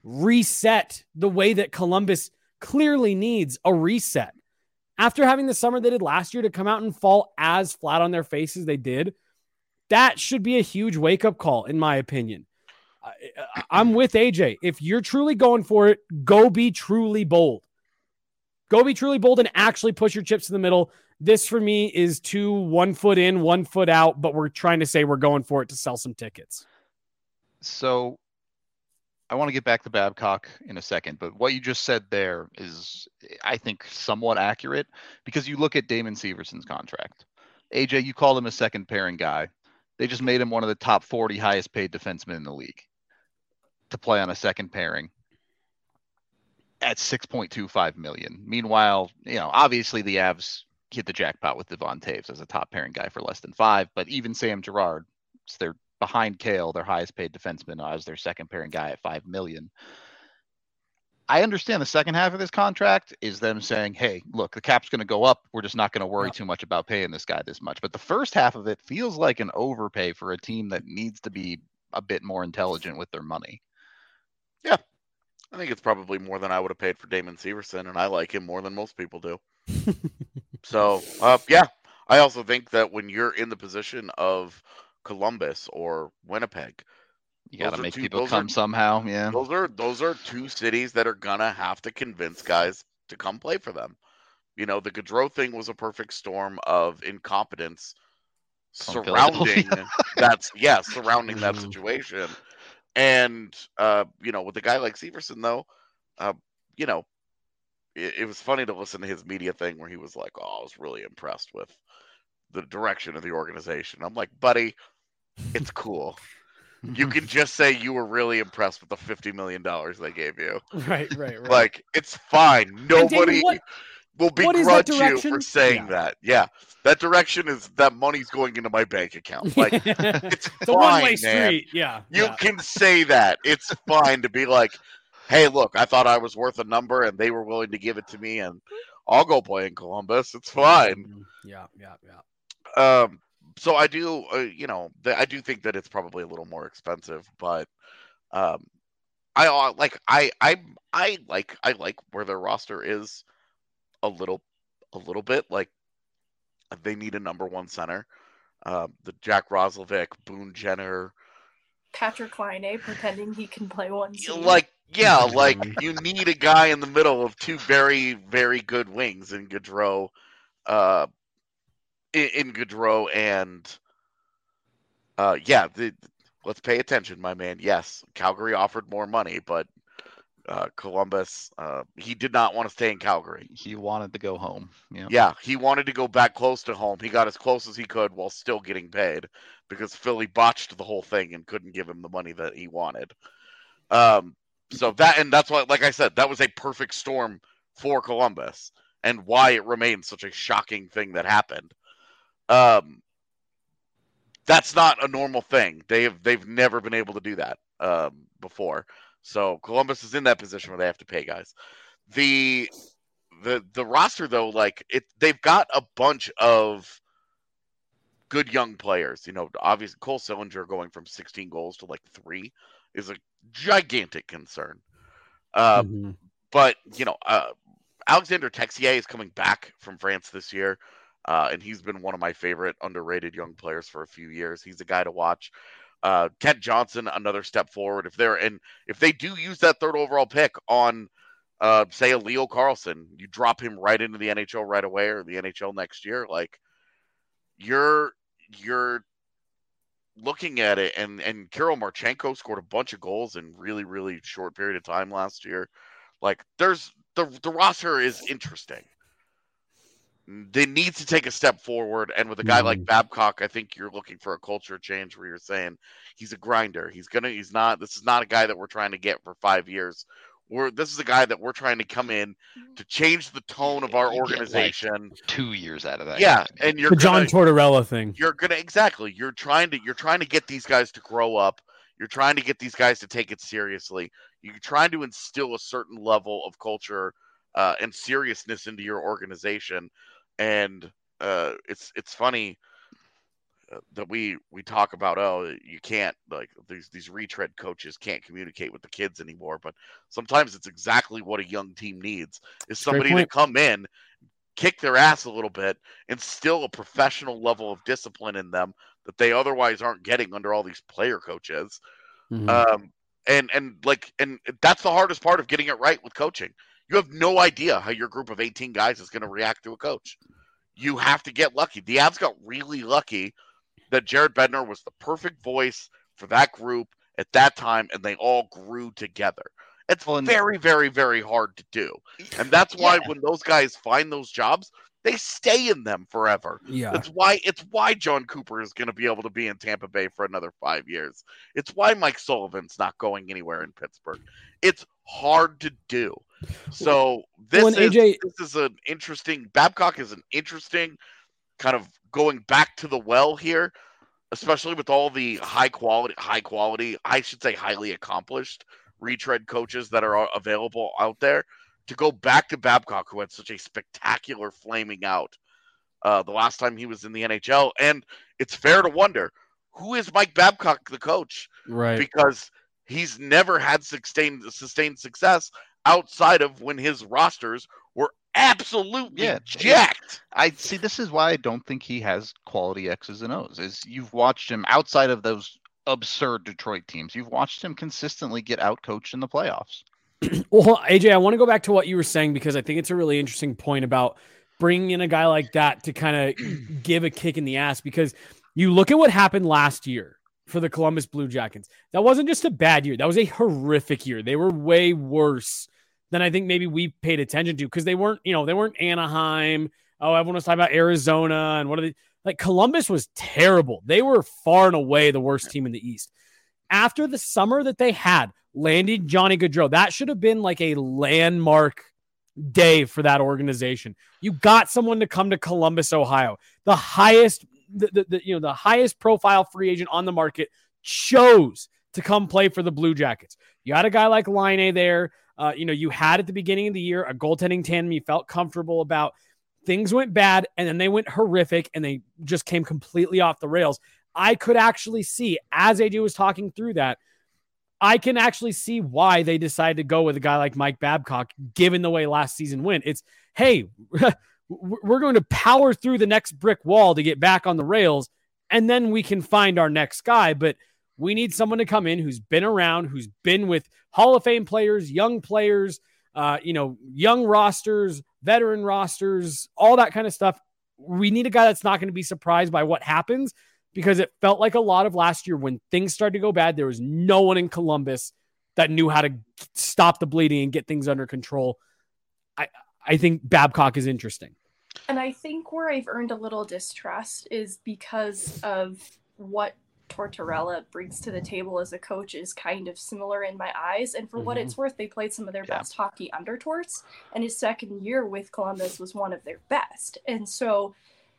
reset the way that Columbus clearly needs a reset? After having the summer they did last year to come out and fall as flat on their faces they did, that should be a huge wake-up call, in my opinion. I, I'm with A J. If you're truly going for it, go be truly bold. Go be truly bold and actually push your chips to the middle. This, for me, is two one foot in, one foot out, but we're trying to say we're going for it to sell some tickets. So I want to get back to Babcock in a second, but what you just said there is, I think, somewhat accurate because you look at Damon Severson's contract. A J, you called him a second pairing guy. They just made him one of the top forty highest paid defensemen in the league to play on a second pairing at six point two five million. Meanwhile, you know, obviously the Avs hit the jackpot with Devon Taves as a top pairing guy for less than five, but even Sam Girard, they're behind Kale, their highest paid defenseman, as their second pairing guy at five million. I understand the second half of this contract is them saying, hey, look, the cap's going to go up. We're just not going to worry Yeah. too much about paying this guy this much. But the first half of it feels like an overpay for a team that needs to be a bit more intelligent with their money. I think it's probably more than I would have paid for Damon Severson, and I like him more than most people do. So, uh, yeah, I also think that when you're in the position of Columbus or Winnipeg, You got Those to are make two- people those come are- somehow. Yeah. those are those are two cities that are gonna have to convince guys to come play for them. you know, the Gaudreau thing was a perfect storm of incompetence From surrounding Philadelphia. that's yeah, surrounding that Mhm. situation. And uh, you know, with a guy like Severson though, uh, you know, it, it was funny to listen to his media thing where he was like, "Oh, I was really impressed with the direction of the organization." I'm like, buddy, it's cool. You can just say you were really impressed with the fifty million dollars they gave you. Right, right, right. Like, it's fine. And Nobody David, what will what is that begrudge you direction? for saying Yeah. that. Yeah, that direction is that money's going into my bank account. Like, it's it's a one-way fine, man. street. Yeah. You yeah. can say that. It's fine to be like, hey, look, I thought I was worth a number and they were willing to give it to me, and I'll go play in Columbus. It's fine. Mhm. Yeah, yeah, yeah. Um, so I do, uh, you know, th- I do think that it's probably a little more expensive, but um, I uh, like, I, I, I like, I like where their roster is a little, a little bit. Like, they need a number one center. Um, the Jack Roslovic, Boone Jenner, Patrick Laine pretending he can play one y- season. like, yeah, like Mhm. you need a guy in the middle of two very, very good wings in Gaudreau, uh, in, in Gaudreau and, uh, yeah, the, let's pay attention, my man. Yes, Calgary offered more money, but uh, Columbus, uh, he did not want to stay in Calgary. He wanted to go home. Yeah. Yeah, he wanted to go back close to home. He got as close as he could while still getting paid because Philly botched the whole thing and couldn't give him the money that he wanted. Um, so that, and that's why, like I said, that was a perfect storm for Columbus and why it remains such a shocking thing that happened. Um, that's not a normal thing. They have, they've never been able to do that um, before. So Columbus is in that position where they have to pay guys. The the the roster though, like it, they've got a bunch of good young players. You know, obviously Cole Sillinger going from sixteen goals to like three is a gigantic concern. Uh, Mhm. but you know, uh, Alexander Texier is coming back from France this year, uh, and he's been one of my favorite underrated young players for a few years. He's a guy to watch. Uh, Kent Johnson, another step forward. If they're and if they do use that third overall pick on, uh, say a Leo Carlson, you drop him right into the N H L right away or the N H L next year. Like you're you're looking at it, and and Kirill Marchenko scored a bunch of goals in really really short period of time last year. Like there's the the roster is interesting. They need to take a step forward, and with a guy like Mhm. Babcock, I think you're looking for a culture change where you're saying he's a grinder. He's gonna. He's not. This is not a guy that we're trying to get for five years. We're this is a guy that we're trying to come in to change the tone of our You get, like, organization. Two years out of that. Yeah, guy. and you're The John gonna Tortorella thing. you're gonna exactly. You're trying to you're trying to get these guys to grow up. You're trying to get these guys to take it seriously. You're trying to instill a certain level of culture uh, and seriousness into your organization. And uh, it's it's funny uh, that we we talk about, oh, you can't, like, these these retread coaches can't communicate with the kids anymore. But sometimes it's exactly what a young team needs is somebody to point. come in, kick their ass a little bit, instill a professional level of discipline in them that they otherwise aren't getting under all these player coaches. Mhm. Um, and and like and that's the hardest part of getting it right with coaching. You have no idea how your group of eighteen guys is going to react to a coach. You have to get lucky. The Avs got really lucky that Jared Bednar was the perfect voice for that group at that time, and they all grew together. It's Well, and- very, very, very hard to do. And that's why Yeah. when those guys find those jobs, they stay in them forever. Yeah. That's why it's why John Cooper is going to be able to be in Tampa Bay for another five years. It's why Mike Sullivan's not going anywhere in Pittsburgh. It's hard to do. So this Well, and is A J this is an interesting Babcock is an interesting kind of going back to the well here, especially with all the high quality, high quality, I should say highly accomplished retread coaches that are available out there. To go back to Babcock, who had such a spectacular flaming out uh, the last time he was in the N H L. And it's fair to wonder, who is Mike Babcock, the coach? Right. Because he's never had sustained, sustained success outside of when his rosters were absolutely Yeah, jacked. I see. This is why I don't think he has quality X's and O's. Is you've watched him outside of those absurd Detroit teams. You've watched him consistently get outcoached in the playoffs. Well, A J, I want to go back to what you were saying because I think it's a really interesting point about bringing in a guy like that to kind of give a kick in the ass, because you look at what happened last year for the Columbus Blue Jackets. That wasn't just a bad year. That was a horrific year. They were way worse than I think maybe we paid attention to, because they weren't, you know, they weren't Anaheim. Oh, everyone was talking about Arizona and what are they like? Columbus was terrible. They were far and away the worst team in the East. After the summer that they had, landing Johnny Gaudreau, that should have been like a landmark day for that organization. You got someone to come to Columbus, Ohio, the highest, the, the, the you know, the highest profile free agent on the market chose to come play for the Blue Jackets. You had a guy like Laine there. Uh, you know, you had at the beginning of the year a goaltending tandem you felt comfortable about. Things went bad, and then they went horrific, and they just came completely off the rails. I could actually see, as A J was talking through that, I can actually see why they decided to go with a guy like Mike Babcock, given the way last season went. It's, hey, we're going to power through the next brick wall to get back on the rails, and then we can find our next guy. But we need someone to come in who's been around, who's been with Hall of Fame players, young players, uh, you know, young rosters, veteran rosters, all that kind of stuff. We need a guy that's not going to be surprised by what happens, because it felt like a lot of last year when things started to go bad, there was no one in Columbus that knew how to stop the bleeding and get things under control. I, I think Babcock is interesting. And I think where I've earned a little distrust is because of what Tortorella brings to the table as a coach is kind of similar in my eyes. And for mm-hmm. what it's worth, they played some of their yeah. best hockey under Torts, and his second year with Columbus was one of their best. And so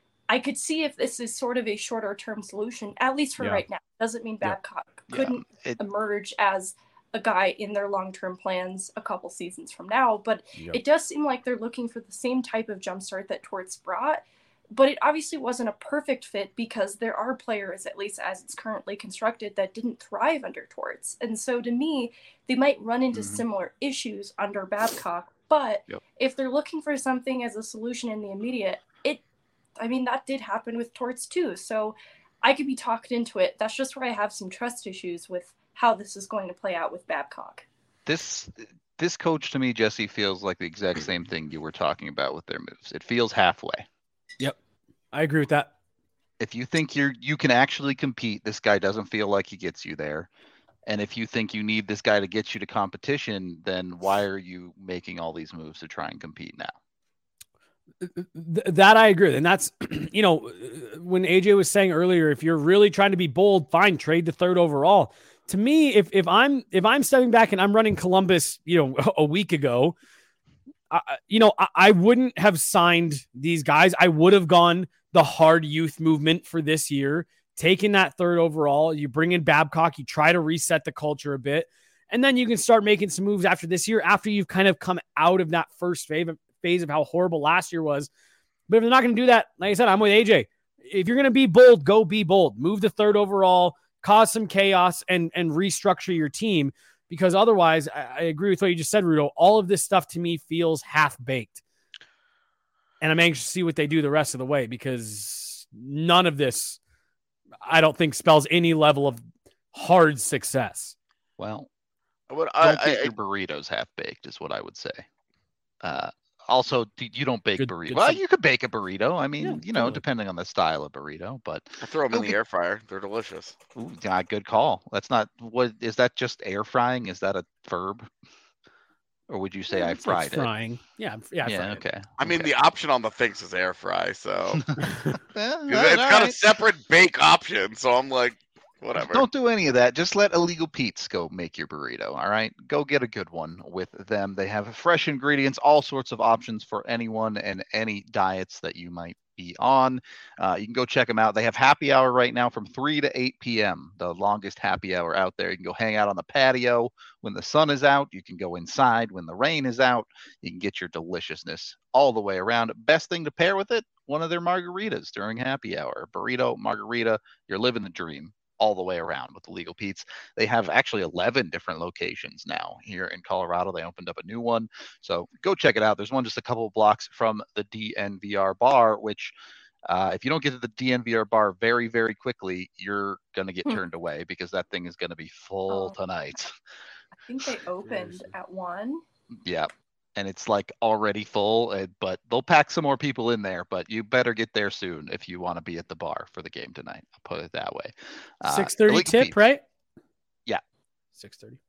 I could see if this is sort of a shorter term solution, at least for yeah. right now. Doesn't mean Babcock yeah. couldn't yeah. It, emerge as a guy in their long-term plans a couple seasons from now. But yep. it does seem like they're looking for the same type of jumpstart that Torts brought. But it obviously wasn't a perfect fit, because there are players, at least as it's currently constructed, that didn't thrive under Torts. And so to me, they might run into mm-hmm. similar issues under Babcock. But yep. if they're looking for something as a solution in the immediate, it, I mean, that did happen with Torts too. So I could be talked into it. That's just where I have some trust issues with how this is going to play out with Babcock. This this coach to me, Jesse, feels like the exact same thing you were talking about with their moves. It feels halfway. Yep. I agree with that. If you think you're you can actually compete, this guy doesn't feel like he gets you there. And if you think you need this guy to get you to competition, then why are you making all these moves to try and compete now? Th- that I agree with. And that's, you know, when A J was saying earlier, if you're really trying to be bold, fine, trade the third overall. To me, if if I'm if I'm stepping back and I'm running Columbus, you know, a week ago, I, you know, I, I wouldn't have signed these guys. I would have gone the hard youth movement for this year, taking that third overall. You bring in Babcock, you try to reset the culture a bit, and then you can start making some moves after this year, after you've kind of come out of that first phase of, phase of how horrible last year was. But if they're not going to do that, like I said, I'm with A J. If you're going to be bold, go be bold. Move the third overall, cause some chaos, and and restructure your team, because otherwise, I, I agree with what you just said, Rudo. All of this stuff to me feels half-baked. And I'm anxious to see what they do the rest of the way, because none of this, I don't think, spells any level of hard success. Well, what don't I, get I, your burritos half-baked is what I would say. Uh, also, you don't bake Good- burritos. good Well, stuff. you could bake a burrito. I mean, Yeah, you know, totally. depending on the style of burrito, but I throw them Go in the get- air fryer. They're delicious. ooh, yeah, good call. That's not what is that just air frying? Is that a verb? Or would you say I It's like fried it? frying. Yeah, yeah, I Yeah, fried it. okay. I mean, okay. the option on the things is air fry, so Well, it's all got a right. separate bake option. So I'm like, whatever. Don't do any of that. Just let Illegal Pete's go make your burrito. All right. Go get a good one with them. They have fresh ingredients, all sorts of options for anyone and any diets that you might be on. Uh, you can go check them out. They have happy hour right now from three to eight p.m., the longest happy hour out there. You can go hang out on the patio when the sun is out. You can go inside when the rain is out. You can get your deliciousness all the way around. Best thing to pair with it, one of their margaritas during happy hour. Burrito, margarita, you're living the dream all the way around with Illegal Pete's. They have actually eleven different locations now here in Colorado. They opened up a new one. So go check it out. There's one just a couple of blocks from the D N V R bar, which uh, if you don't get to the D N V R bar very, very quickly, you're going to get Hmm. turned away, because that thing is going to be full Oh. tonight. I think they opened Seriously. at one. Yeah. and it's like already full, uh, but they'll pack some more people in there. But you better get there soon if you want to be at the bar for the game tonight. I'll put it that way. Uh, six thirty Illegal tip, Pete's. right? Yeah. six thirty.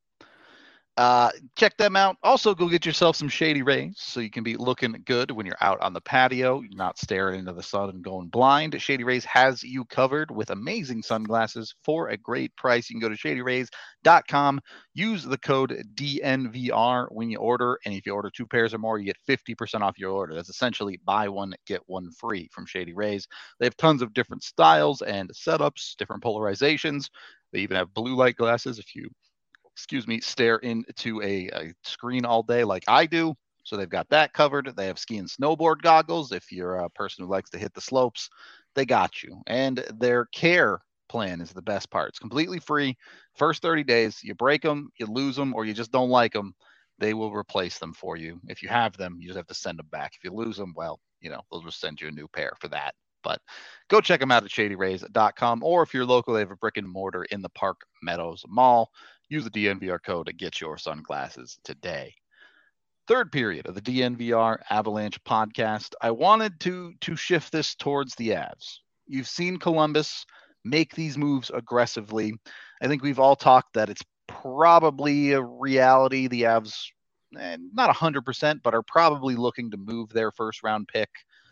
Uh, check them out. Also, go get yourself some Shady Rays so you can be looking good when you're out on the patio. You're not staring into the sun and going blind. Shady Rays has you covered with amazing sunglasses for a great price. You can go to shady rays dot com. Use the code D N V R when you order, and if you order two pairs or more, you get fifty percent off your order. That's essentially buy one, get one free from Shady Rays. They have tons of different styles and setups, different polarizations. They even have blue light glasses if you excuse me, stare into a, a screen all day like I do. So they've got that covered. They have ski and snowboard goggles. If you're a person who likes to hit the slopes, they got you. And their care plan is the best part. It's completely free. First thirty days, you break them, you lose them, or you just don't like them, they will replace them for you. If you have them, you just have to send them back. If you lose them, well, you know, they'll just send you a new pair for that. But go check them out at shady rays dot com, or if you're local, they have a brick and mortar in the Park Meadows Mall. Use the D N V R code to get your sunglasses today. Third period of the D N V R Avalanche podcast. I wanted to to shift this towards the Avs. You've seen Columbus make these moves aggressively. I think we've all talked that it's probably a reality. The Avs, eh, not one hundred percent, but are probably looking to move their first round pick.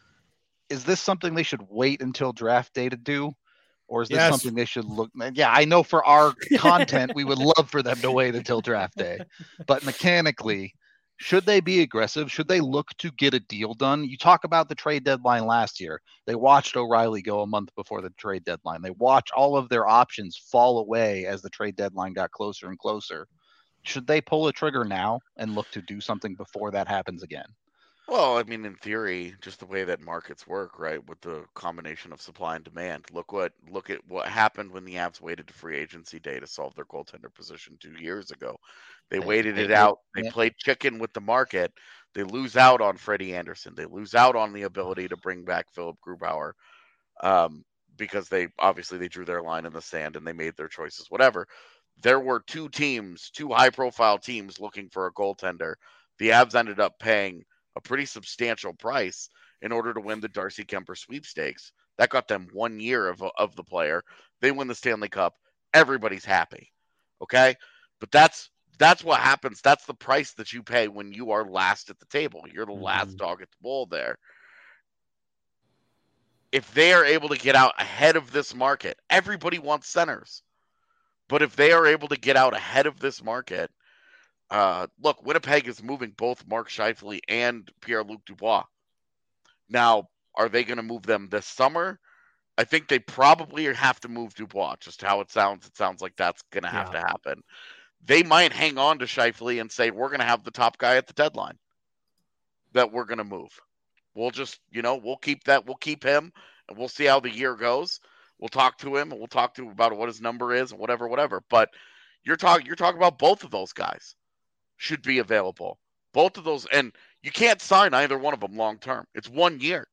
Is this something they should wait until draft day to do? Or is this Yes. something they should look? Yeah, I know for our content, we would love for them to wait until draft day. But mechanically, should they be aggressive? Should they look to get a deal done? You talk about the trade deadline last year. They watched O'Reilly go a month before the trade deadline. They watched all of their options fall away as the trade deadline got closer and closer. Should they pull a trigger now and look to do something before that happens again? Well, I mean, in theory, just the way that markets work, right, with the combination of supply and demand. Look what look at what happened when the Avs waited to free agency day to solve their goaltender position two years ago. They, They- waited they it did, out. They yeah. played chicken with the market. They lose out on Freddie Anderson. They lose out on the ability to bring back Philip Grubauer, um, because they obviously they drew their line in the sand and they made their choices. Whatever. There were two teams, two high-profile teams looking for a goaltender. The Avs ended up paying a pretty substantial price in order to win the Darcy Kemper sweepstakes. That got them one year of, of the player. They win the Stanley Cup. Everybody's happy. Okay? But that's that's what happens. That's the price that you pay when you are last at the table. You're the Mhm. last dog at the bowl there. If they are able to get out ahead of this market, everybody wants centers. But if they are able to get out ahead of this market, Uh, look, Winnipeg is moving both Mark Scheifele and Pierre-Luc Dubois. Now, are they going to move them this summer? I think they probably have to move Dubois. Just how it sounds, it sounds like that's going to have Yeah. to happen. They might hang on to Scheifele and say, we're going to have the top guy at the deadline that we're going to move. We'll just, you know, we'll keep that. We'll keep him, and we'll see how the year goes. We'll talk to him, and we'll talk to him about what his number is, and whatever, whatever. But you're talking, you're talking about both of those guys should be available. Both of those, and you can't sign either one of them long term. It's one year.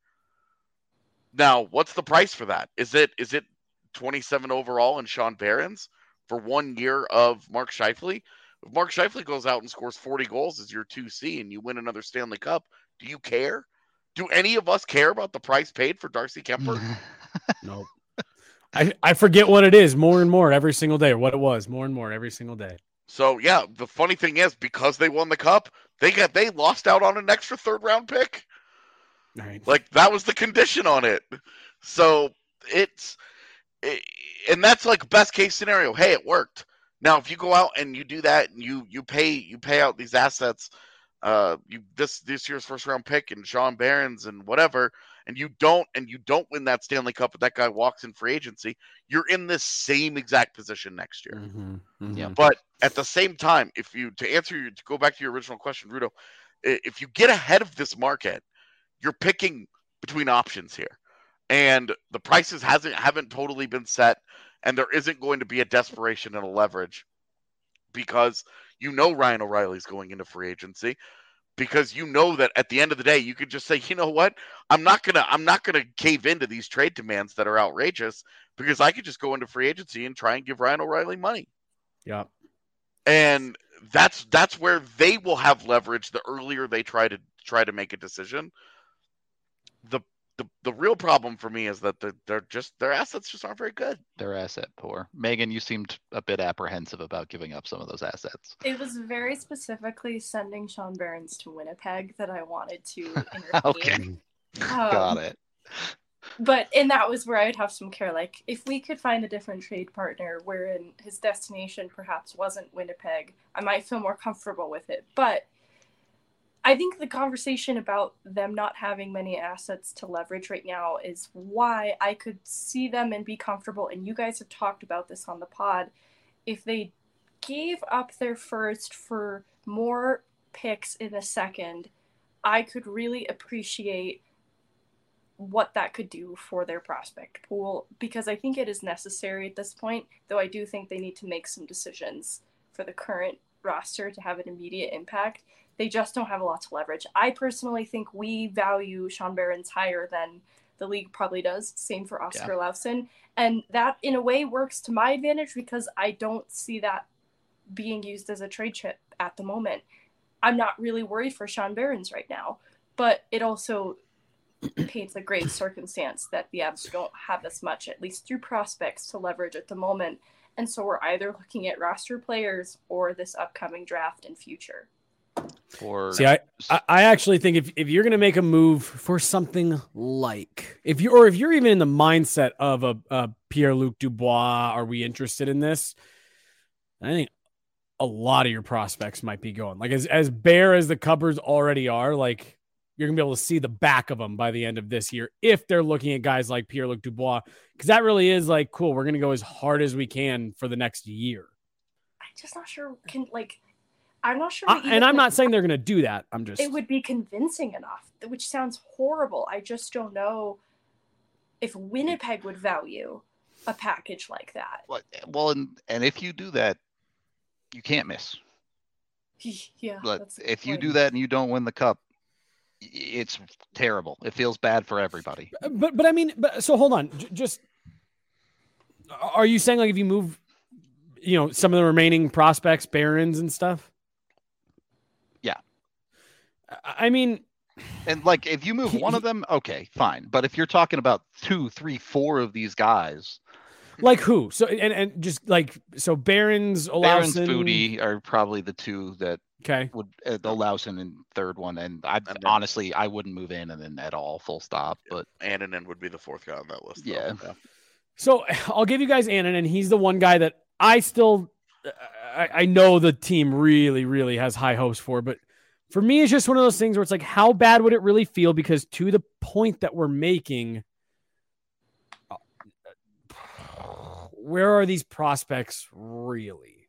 Now, what's the price for that? Is it is it twenty-seven overall and Sean Behrens for one year of Mark Scheifele? If Mark Scheifele goes out and scores forty goals as your two C and you win another Stanley Cup, do you care? Do any of us care about the price paid for Darcy Kemper? Nope. I, I forget what it is more and more every single day, or what it was more and more every single day. So yeah, the funny thing is, because they won the cup, they got they lost out on an extra third round pick. Right. Like that was the condition on it. So it's it, and that's like best case scenario. Hey, it worked. Now if you go out and you do that and you you pay you pay out these assets, uh you this this year's first round pick and Sean Behrens and whatever, and you don't and you don't win that Stanley Cup, and that guy walks in free agency, you're in this same exact position next year. Mm-hmm. Mm-hmm. Yeah. But at the same time, if you to answer your to go back to your original question, Rudo, i- if you get ahead of this market, you're picking between options here, and the prices hasn't haven't totally been set, and there isn't going to be a desperation and a leverage because you know Ryan O'Reilly's going into free agency, because you know that at the end of the day you could just say, you know what, I'm not gonna I'm not gonna cave into these trade demands that are outrageous, because I could just go into free agency and try and give Ryan O'Reilly money. Yeah. And that's that's where they will have leverage the earlier they try to try to make a decision. The the, the real problem for me is that they're, they're just their assets just aren't very good. They're asset poor. Megan, you seemed a bit apprehensive about giving up some of those assets. It was very specifically sending Sean Behrens to Winnipeg that I wanted to intervene. Okay. Um, Got it. But, and that was where I'd have some care. Like, if we could find a different trade partner wherein his destination perhaps wasn't Winnipeg, I might feel more comfortable with it. But I think the conversation about them not having many assets to leverage right now is why I could see them and be comfortable. And you guys have talked about this on the pod. If they gave up their first for more picks in a second, I could really appreciate what that could do for their prospect pool, because I think it is necessary at this point, though I do think they need to make some decisions for the current roster to have an immediate impact. They just don't have a lot to leverage. I personally think we value Sean Behrens higher than the league probably does. Same for Oscar Yeah. Lausson. And that, in a way, works to my advantage because I don't see that being used as a trade chip at the moment. I'm not really worried for Sean Behrens right now, but it also paints a grave circumstance that the Avs don't have as much, at least through prospects, to leverage at the moment. And so we're either looking at roster players or this upcoming draft and future. Or See, I, I I actually think if, if you're going to make a move for something like, if you or if you're even in the mindset of a, a Pierre-Luc Dubois, are we interested in this? I think a lot of your prospects might be going. Like as, as bare as the cupboards already are, like you're going to be able to see the back of them by the end of this year if they're looking at guys like Pierre-Luc Dubois, because that really is like, cool, we're going to go as hard as we can for the next year. I'm just not sure, can like, I'm not sure. I, even and I'm if not saying they're going to do that. I'm just. It would be convincing enough, which sounds horrible. I just don't know if Winnipeg would value a package like that. Well, well, and, and if you do that, you can't miss. Yeah. But that's a good if you point. do that and you don't win the cup, i- it's terrible. It feels bad for everybody. But but I mean, but so hold on. J- just are you saying like if you move, you know, some of the remaining prospects, Barons and stuff? Yeah. I I mean, And like, if you move one of them, okay, fine. But if you're talking about two, three, four of these guys, like who? So and and just like so, Barons, Barons, Olausson, Foodie are probably the two that okay. would uh, the Olausson in third one. And I And then- honestly, I wouldn't move in and then at all, full stop. But Annunen would be the fourth guy on that list. though. Yeah. So I'll give you guys Annan, and he's the one guy that I still, I, I know the team really, really has high hopes for, but for me, it's just one of those things where it's like, how bad would it really feel? Because to the point that we're making, where are these prospects really?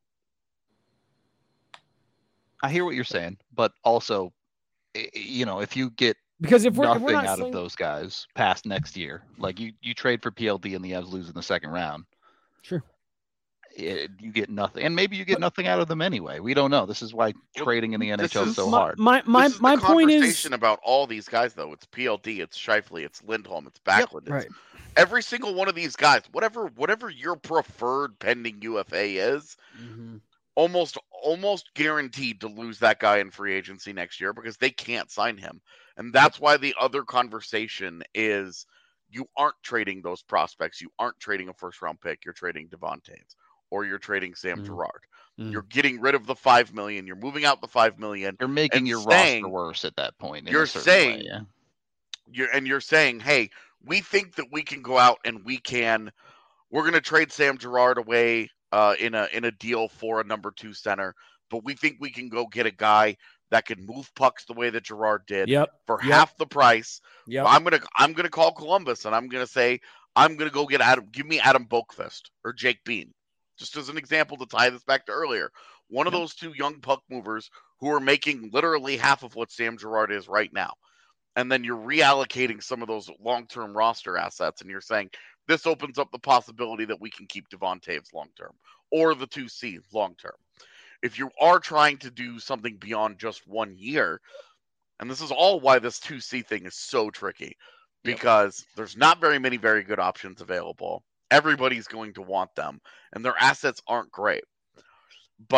I hear what you're saying. But also, i- you know, if you get Because if we're, if nothing we're not out saying, of those guys past next year, like you, you trade for P L D and the Avs lose in the second round, sure. it, you get nothing. And maybe you get nothing out of them anyway. We don't know. This is why Well, trading in the this N H L is is- so my, hard. my, my, This is my the point is, conversation about all these guys, though. It's P L D, it's Scheifele, it's Lindholm, it's Backlund. It's right. every single one of these guys, whatever whatever your preferred pending U F A is, Mhm. almost almost guaranteed to lose that guy in free agency next year because they can't sign him. And that's why the other conversation is you aren't trading those prospects. You aren't trading a first round pick. You're trading Devon Taves or you're trading Sam Mm. Girard. Mm. You're getting rid of the five million. You're moving out the five million. You're making and your saying- roster worse at that point. in a you're certain saying- way, yeah. You're and you're saying, hey, we think that we can go out and we can we're gonna trade Sam Girard away uh, in a in a deal for a number two center, but we think we can go get a guy that can move pucks the way that Girard did Yep. for Yep. half the price. Yep. I'm gonna I'm gonna call Columbus and I'm gonna say I'm gonna go get Adam. Give me Adam Boakfist or Jake Bean, just as an example to tie this back to earlier. One of Yep. those two young puck movers who are making literally half of what Sam Girard is right now, and then you're reallocating some of those long-term roster assets, and you're saying this opens up the possibility that we can keep Devon Taves long-term or the two C long-term. If you are trying to do something beyond just one year, and this is all why this two C thing is so tricky, Yep. because there's not very many very good options available. Everybody's going to want them, and their assets aren't great. But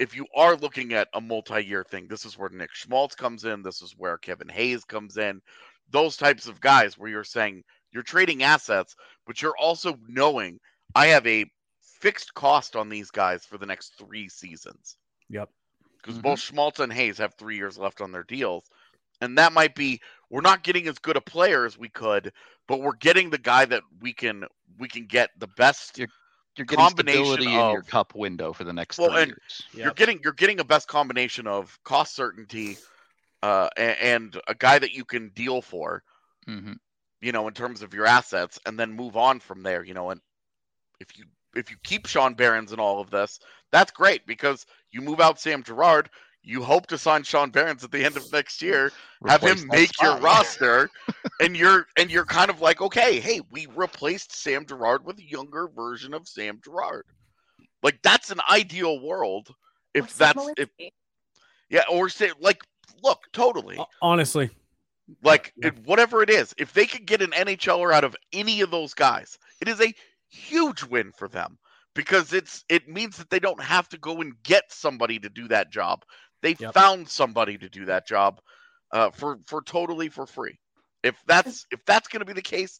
if you are looking at a multi-year thing, this is where Nick Schmaltz comes in. This is where Kevin Hayes comes in. Those types of guys where you're saying you're trading assets, but you're also knowing I have a fixed cost on these guys for the next three seasons. Yep. Because Mhm. both Schmaltz and Hayes have three years left on their deals. And that might be, we're not getting as good a player as we could, but we're getting the guy that we can we can get the best You're You're getting combination stability in your of- cup window for the next Well, three and years. you're Yep. getting you're getting a best combination of cost certainty uh, a- and a guy that you can deal for, Mhm. you know, in terms of your assets, and then move on from there, you know. And if you if you keep Sean Behrens in all of this, that's great because you move out Sam Girard. You hope to sign Sean Behrens at the end of next year, have Replace him that make your spot. roster, and you're and you're kind of like, okay, hey, we replaced Sam Girard with a younger version of Sam Girard. Like that's an ideal world Or if Sam that's if Malinsky. yeah, or say like, look, totally. Ho- Honestly, Like Yeah. it, whatever it is, if they could get an N H L er out of any of those guys, it is a huge win for them because it's it means that they don't have to go and get somebody to do that job. They Yep. found somebody to do that job uh, for for totally for free. If that's if that's going to be the case,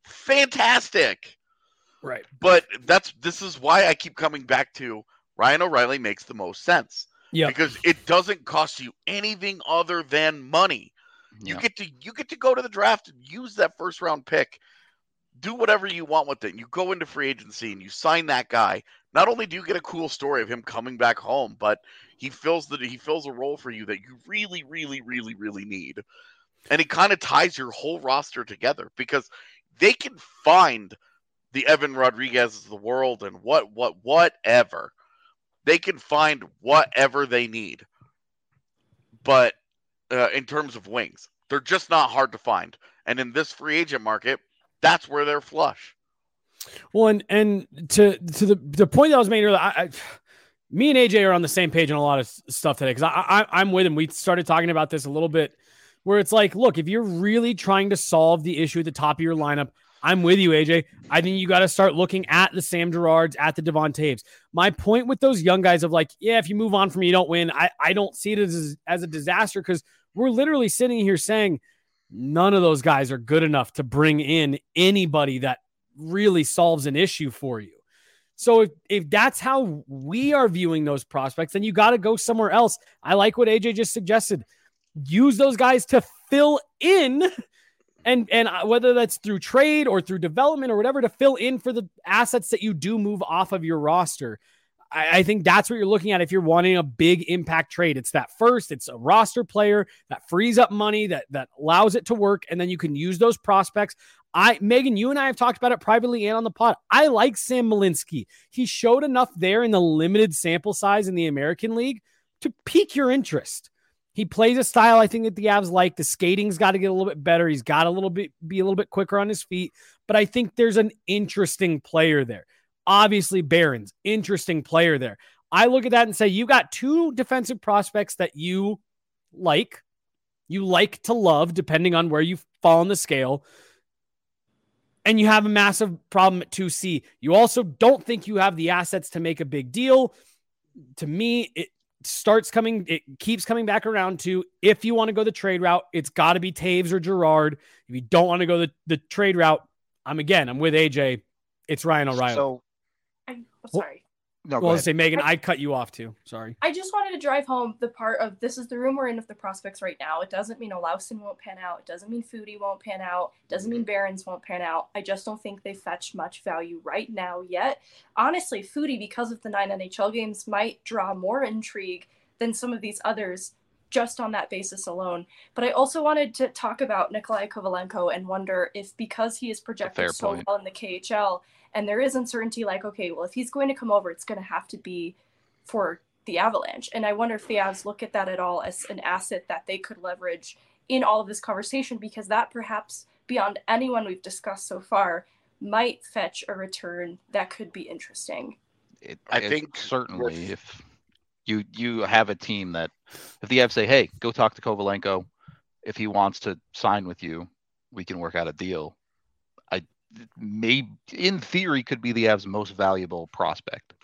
fantastic. right. But that's this is why I keep coming back to Ryan O'Reilly makes the most sense Yeah. because it doesn't cost you anything other than money. You Yeah. get to you get to go to the draft and use that first round pick. Do whatever you want with it. You go into free agency and you sign that guy. Not only do you get a cool story of him coming back home, but he fills the he fills a role for you that you really, really, really, really need. And he kind of ties your whole roster together because they can find the Evan Rodriguez's of the world and what what whatever. They can find whatever they need. But uh, in terms of wings, they're just not hard to find. And in this free agent market, that's where they're flush. Well, and and to to the the point that I was making earlier, I, I, me and A J are on the same page on a lot of s- stuff today because I, I I'm with him. We started talking about this a little bit, where it's like, look, if you're really trying to solve the issue at the top of your lineup, I'm with you, A J. I think you got to start looking at the Sam Girards, at the Devon Taves. My point with those young guys of like, yeah, if you move on from me, you don't win. I I don't see it as as a disaster because we're literally sitting here saying none of those guys are good enough to bring in anybody that really solves an issue for you. So if, if that's how we are viewing those prospects, then you got to go somewhere else. I like what A J just suggested. Use those guys to fill in and, and whether that's through trade or through development or whatever, to fill in for the assets that you do move off of your roster. I, I think that's what you're looking at if you're wanting a big impact trade. It's that first, it's a roster player that frees up money, that that allows it to work, and then you can use those prospects. I, Megan, you and I have talked about it privately and on the pod. I like Sam Malinsky. He showed enough there in the limited sample size in the American League to pique your interest. He plays a style I think that the Avs like. The skating's got to get a little bit better. He's got a little bit be a little bit quicker on his feet, but I think there's an interesting player there. Obviously, Behrens, interesting player there. I look at that and say, you got two defensive prospects that you like, you like to love, depending on where you fall on the scale. And you have a massive problem at two C. You also don't think you have the assets to make a big deal. To me, it starts coming, it keeps coming back around to, if you want to go the trade route, it's got to be Taves or Girard. If you don't want to go the, the trade route, I'm again, I'm with A J. It's Ryan O'Reilly. So I'm sorry. no, go well, ahead. let's say, Megan, I cut you off too. Sorry. I just wanted to drive home the part of this is the room we're in of the prospects right now. It doesn't mean Olausson won't pan out. It doesn't mean Foodie won't pan out. It doesn't mean Behrens won't pan out. I just don't think they fetch much value right now yet. Honestly, Foodie, because of the nine N H L games, might draw more intrigue than some of these others just on that basis alone. But I also wanted to talk about Nikolai Kovalenko and wonder if, because he is projected fair so point. well in the K H L, and there is uncertainty like, okay, well, if he's going to come over, it's going to have to be for the Avalanche. And I wonder if the Avs look at that at all as an asset that they could leverage in all of this conversation, because that perhaps beyond anyone we've discussed so far might fetch a return that could be interesting. It, I it think certainly with- if you you have a team that if the Avs say, hey, go talk to Kovalenko, if he wants to sign with you, we can work out a deal. I may in theory could be the Avs most valuable prospect.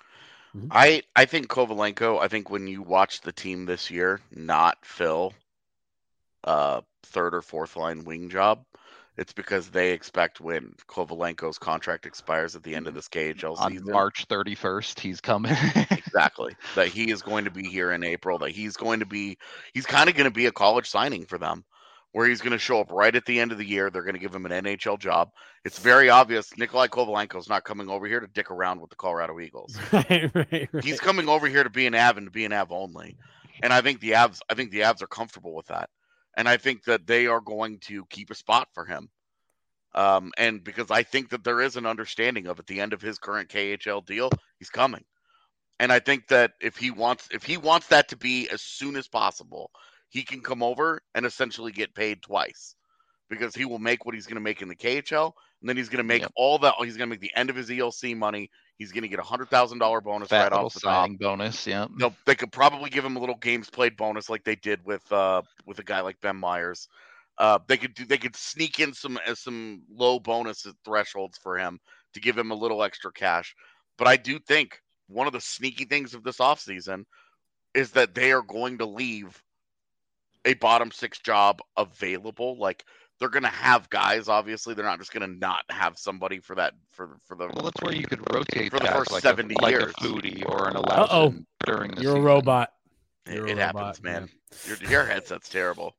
Mhm. I I think Kovalenko. I think when you watch the team this year, not fill uh third or fourth line wing job, it's because they expect when Kovalenko's contract expires at the end of this K H L On season, March thirty-first, he's coming. exactly, that he is going to be here in April. That he's going to be, he's kind of going to be a college signing for them, where he's going to show up right at the end of the year. They're going to give him an N H L job. It's very obvious Nikolai Kovalenko's not coming over here to dick around with the Colorado Eagles. Right, right, right. He's coming over here to be an Av and to be an Av only. And I think the Avs, I think the Avs are comfortable with that. And I think that they are going to keep a spot for him. Um, and because I think that there is an understanding of at the end of his current K H L deal, he's coming. And I think that if he wants, if he wants that to be as soon as possible, he can come over and essentially get paid twice, because he will make what he's going to make in the K H L, and then he's going to make Yep. all that. He's going to make the end of his E L C money. He's going to get a hundred thousand dollar bonus Fat right little off the top. signing bonus. Yeah. No, they could probably give him a little games played bonus like they did with uh with a guy like Ben Myers. Uh, they could do they could sneak in some uh, some low bonus thresholds for him to give him a little extra cash. But I do think one of the sneaky things of this offseason is that they are going to leave a bottom six job available. Like, they're going to have guys. Obviously, they're not just going to not have somebody for that for for the. Well, that's where you could rotate For the guys first like seventy a, like years. a Foodie or an Uh-oh. Alausen during the You're season. a robot. It, You're a it happens, robot, man. Your your headset's terrible.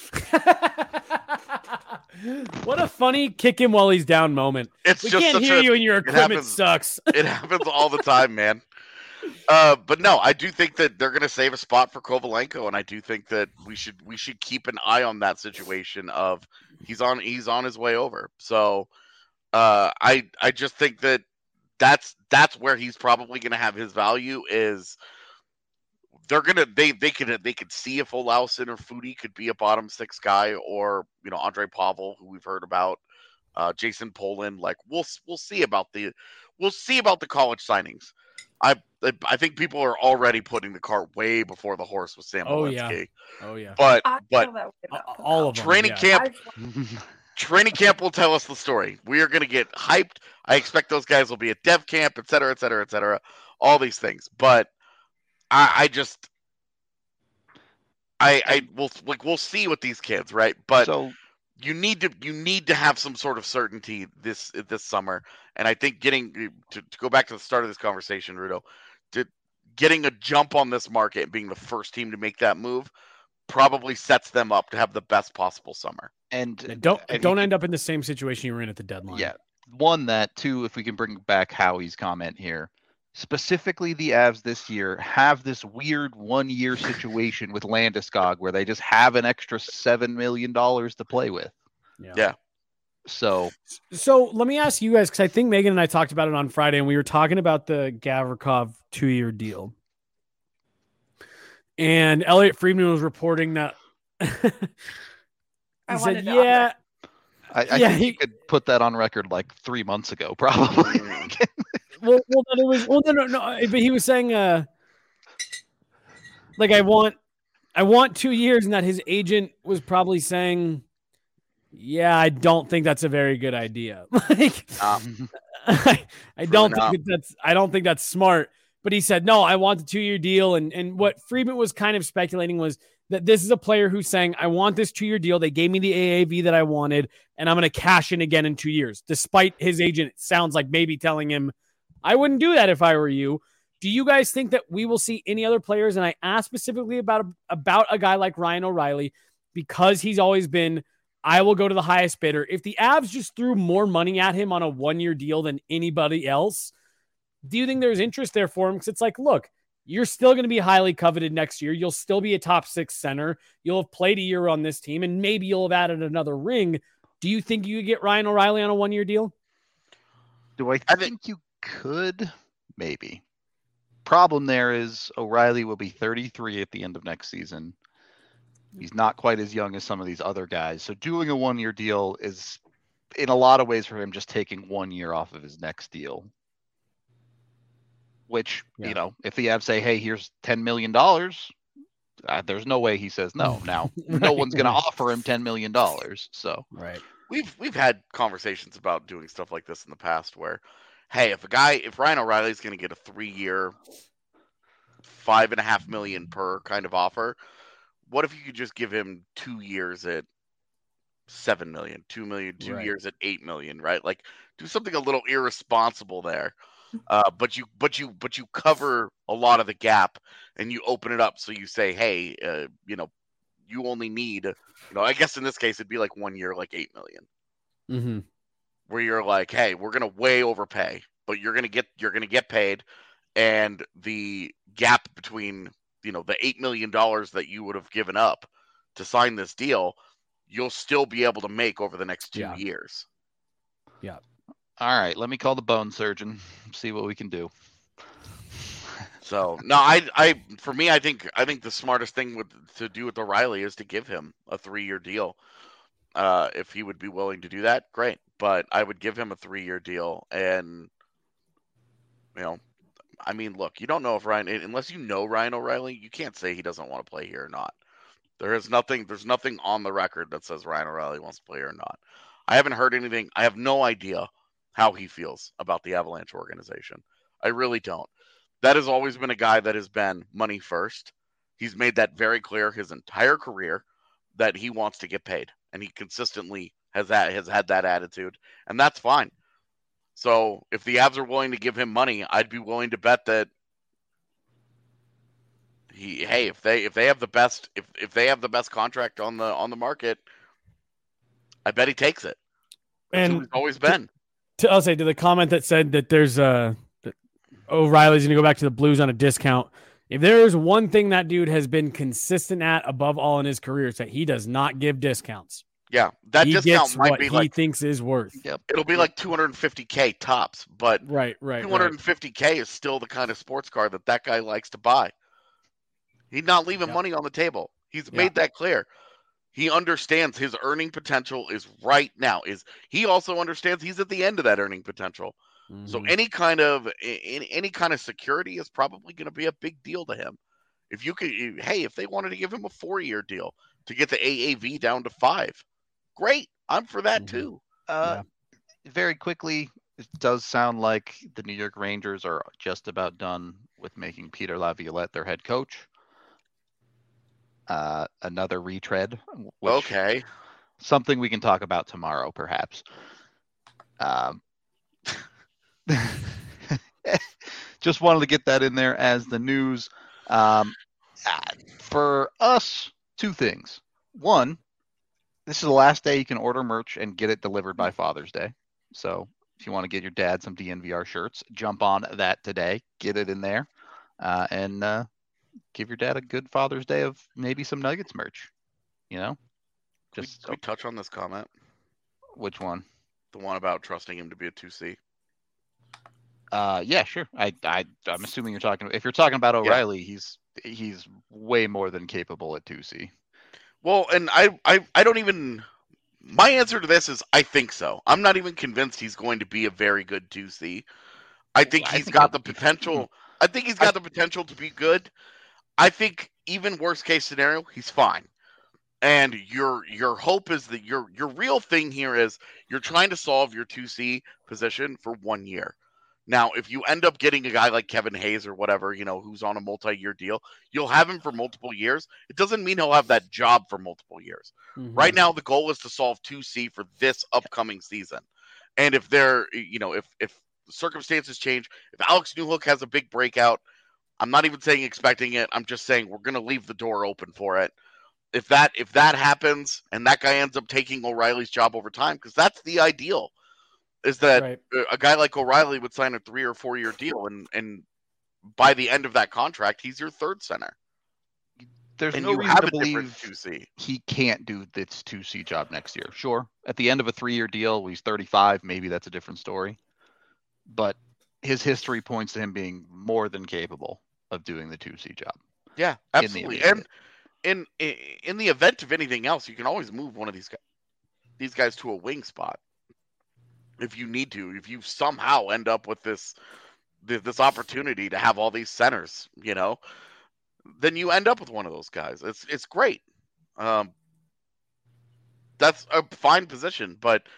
What a funny kick him while he's down moment. It's We just can't such hear a, you and your equipment happens- sucks. It happens all the time, man. Uh, but no, I do think that they're going to save a spot for Kovalenko, and I do think that we should we should keep an eye on that situation of he's on he's on his way over. So uh, I I just think that that's that's where he's probably going to have his value is. They're gonna they they could they could see if Olausen or Foodie could be a bottom six guy, or you know Andre Pavel, who we've heard about, uh, Jason Poland. Like we'll we'll see about the we'll see about the college signings. I I think people are already putting the cart way before the horse with Sam Oh, Walensky. yeah. Oh yeah. But I but feel that way about All of them. training yeah. camp I've- training camp will tell us the story. We are going to get hyped. I expect those guys will be at dev camp, et cetera, et cetera, et cetera. All these things, but I, I just, I, I will like we'll see with these kids, right? But so you need to you need to have some sort of certainty this this summer, and I think getting to, to go back to the start of this conversation, Rudo, to getting a jump on this market and being the first team to make that move probably sets them up to have the best possible summer. and Yeah, don't and don't you end up in the same situation you were in at the deadline. Yeah. One, that. Two, if we can bring back Howie's comment here, specifically the Avs this year have this weird one-year situation with Landeskog where they just have an extra seven million dollars to play with. Yeah. Yeah. So So let me ask you guys, because I think Megan and I talked about it on Friday, and we were talking about the Gavrikov two-year deal. And Elliot Friedman was reporting that he I said, wanted it on "Yeah, I, I Yeah, think he- you could put that on record like three months ago, probably. well, well, no, it was well, no, no, no, but he was saying, uh, like I want, I want two years, and that his agent was probably saying, yeah, I don't think that's a very good idea. Like, Um, I, I don't not. think that that's, I don't think that's smart." But he said, no, I want the two-year deal. And, and what Friedman was kind of speculating was that this is a player who's saying, I want this two-year deal. They gave me the A A V that I wanted, and I'm going to cash in again in two years. Despite his agent, it sounds like maybe telling him, I wouldn't do that if I were you. Do you guys think that we will see any other players? And I asked specifically about, about a guy like Ryan O'Reilly, because he's always been, I will go to the highest bidder. If the Avs just threw more money at him on a one-year deal than anybody else, do you think there's interest there for him? Because it's like, look, you're still going to be highly coveted next year. You'll still be a top six center. You'll have played a year on this team, and maybe you'll have added another ring. Do you think you could get Ryan O'Reilly on a one-year deal? Do I I think, think- you could? Maybe. Problem there is O'Reilly will be thirty-three at the end of next season. He's not quite as young as some of these other guys. So doing a one-year deal is, in a lot of ways, for him just taking one year off of his next deal. Which, Yeah. you know, if the Avs say, hey, here's ten million dollars, uh, there's no way he says no. Now, no Right. one's going to offer him ten million dollars. So, Right. we've we've had conversations about doing stuff like this in the past where hey, if a guy, if Ryan O'Reilly's going to get a three-year, five and a half million per kind of offer, what if you could just give him two years at seven million, two million, two Right. years at eight million, right? Like, do something a little irresponsible there. Uh, but you, but you, but you cover a lot of the gap, and you open it up. So you say, hey, uh, you know, you only need, you know, I guess in this case it'd be like one year, like eight million, Mm-hmm. where you're like, hey, we're gonna way overpay, but you're gonna get, you're gonna get paid, and the gap between, you know, the eight million dollars that you would have given up to sign this deal, you'll still be able to make over the next two Yeah. years. Yeah. All right, let me call the bone surgeon, see what we can do. So no, I, I, for me, I think, I think the smartest thing with to do with O'Reilly is to give him a three-year deal. Uh, if he would be willing to do that, great. But I would give him a three-year deal, and you know, I mean, look, you don't know if Ryan, unless you know Ryan O'Reilly, you can't say he doesn't want to play here or not. There is nothing, there's nothing on the record that says Ryan O'Reilly wants to play here or not. I haven't heard anything. I have no idea how he feels about the Avalanche organization. I really don't. That has always been a guy that has been money first. He's made that very clear his entire career that he wants to get paid, and he consistently has that has had that attitude, and that's fine. So if the Avs are willing to give him money, I'd be willing to bet that he, hey, if they if they have the best if if they have the best contract on the on the market, I bet he takes it. That's And who he's always been. To, I'll say to the comment that said that there's uh that O'Reilly's going to go back to the Blues on a discount. If there is one thing that dude has been consistent at above all in his career, it's that he does not give discounts. Yeah, that he discount gets might what be he like, thinks is worth. Yep. it'll be like two hundred fifty K tops, but Right, right, two hundred fifty K right. is still the kind of sports car that that guy likes to buy. He's not leaving Yep. money on the table. He's Yep. made that clear. He understands his earning potential is right now. Is he also understands he's at the end of that earning potential. Mm-hmm. So any kind of any, any kind of security is probably going to be a big deal to him. If you could, hey, if they wanted to give him a four-year deal to get the A A V down to five, great. I'm for that Mm-hmm. too. Uh, Very quickly, it does sound like the New York Rangers are just about done with making Peter Laviolette their head coach. Uh, another retread. Which, Okay. Something we can talk about tomorrow, perhaps. Um, just wanted to get that in there as the news. Um, uh, for us, two things. One, this is the last day you can order merch and get it delivered by Father's Day. So if you want to get your dad some D N V R shirts, jump on that today, get it in there, uh, and uh, give your dad a good Father's Day of maybe some Nuggets merch. You know, Can just we, can we touch on this comment? Which one? The one about trusting him to be a two C. Uh, yeah, sure. I, I, I'm assuming you're talking. If you're talking about O'Reilly, yeah. he's he's way more than capable at two C. Well, and I, I, I don't even. My answer to this is I think so. I'm not even convinced he's going to be a very good two C. I think I he's think got the potential. I think he's got I, the potential to be good. I think even worst case scenario, he's fine. And your your hope is that your your real thing here is you're trying to solve your two C position for one year. Now, if you end up getting a guy like Kevin Hayes or whatever, you know, who's on a multi-year deal, you'll have him for multiple years. It doesn't mean he'll have that job for multiple years. Mm-hmm. Right now, the goal is to solve two C for this upcoming season. And if there, you know, if if circumstances change, if Alex Newhook has a big breakout, I'm not even saying expecting it. I'm just saying we're going to leave the door open for it. If that if that happens and that guy ends up taking O'Reilly's job over time, because that's the ideal, is that right. a guy like O'Reilly would sign a three or four year deal, and and by the end of that contract, he's your third center. There's and no you reason have to a believe two C. He can't do this two C job next year. Sure, at the end of a three year deal, he's thirty-five. Maybe that's a different story. But his history points to him being more than capable of doing the two C job. Yeah, absolutely. And in in the event of anything else, you can always move one of these guys, these guys to a wing spot if you need to. If you somehow end up with this this opportunity to have all these centers, you know, then you end up with one of those guys. It's it's great. Um, that's a fine position, but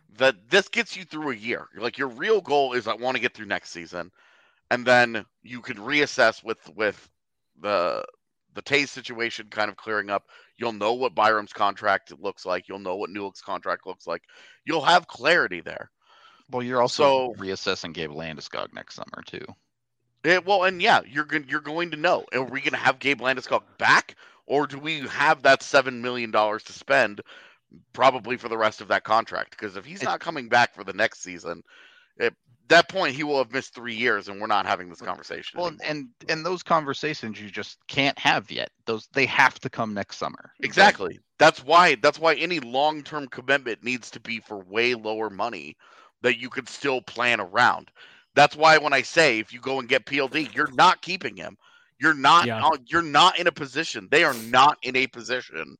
that this gets you through a year. Like your real goal is I want to get through next season, and then you can reassess with with the the Taves situation kind of clearing up. You'll know what Byram's contract looks like. You'll know what Newhook's contract looks like. You'll have clarity there. Well, you're also So- reassessing Gabe Landeskog next summer too. It, well, and yeah, you're going you're going to know. Are we going to have Gabe Landeskog back, or do we have that seven million dollars to spend, probably for the rest of that contract? Because if he's It- not coming back for the next season, at that point he will have missed three years, and we're not having this conversation. Well, anymore. and and those conversations you just can't have yet. Those they have to come next summer. Exactly. That's why that's why any long-term commitment needs to be for way lower money that you could still plan around. That's why when I say if you go and get P L D, you're not keeping him. You're not Yeah. uh, you're not in a position. They are not in a position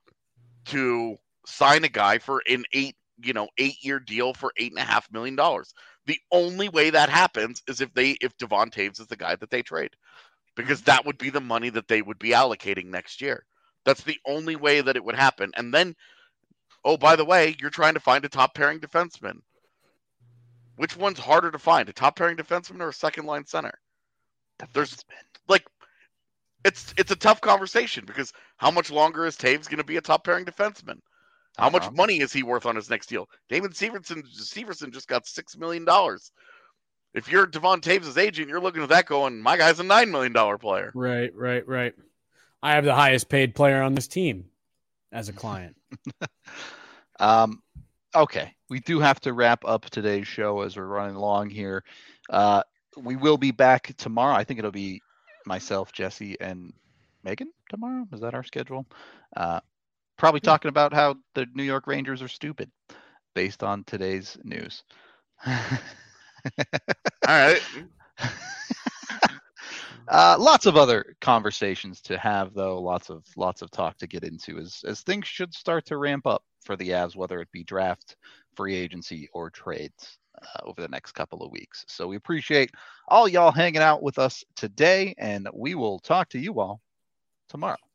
to sign a guy for an eight, you know, eight-year deal for eight and a half million dollars. The only way that happens is if they if Devon Taves is the guy that they trade. Because that would be the money that they would be allocating next year. That's the only way that it would happen. And then, oh, by the way, you're trying to find a top pairing defenseman. Which one's harder to find, a top pairing defenseman or a second line center? There's like, it's it's a tough conversation because how much longer is Taves going to be a top pairing defenseman? How much Uh-huh. money is he worth on his next deal? David Severson, Severson just got six million dollars. If you're Devon Taves' agent, you're looking at that going, my guy's a nine million dollars player. Right, right, right. I have the highest paid player on this team as a client. Um, okay, we do have to wrap up today's show as we're running along here. Uh, we will be back tomorrow. I think it'll be myself, Jesse, and Megan tomorrow. Is that our schedule? Uh, probably talking about how the New York Rangers are stupid based on today's news. All right. Uh, lots of other conversations to have, though. Lots of lots of talk to get into as as things should start to ramp up for the Avs, whether it be draft, free agency, or trades uh, over the next couple of weeks. So we appreciate all y'all hanging out with us today, and we will talk to you all tomorrow.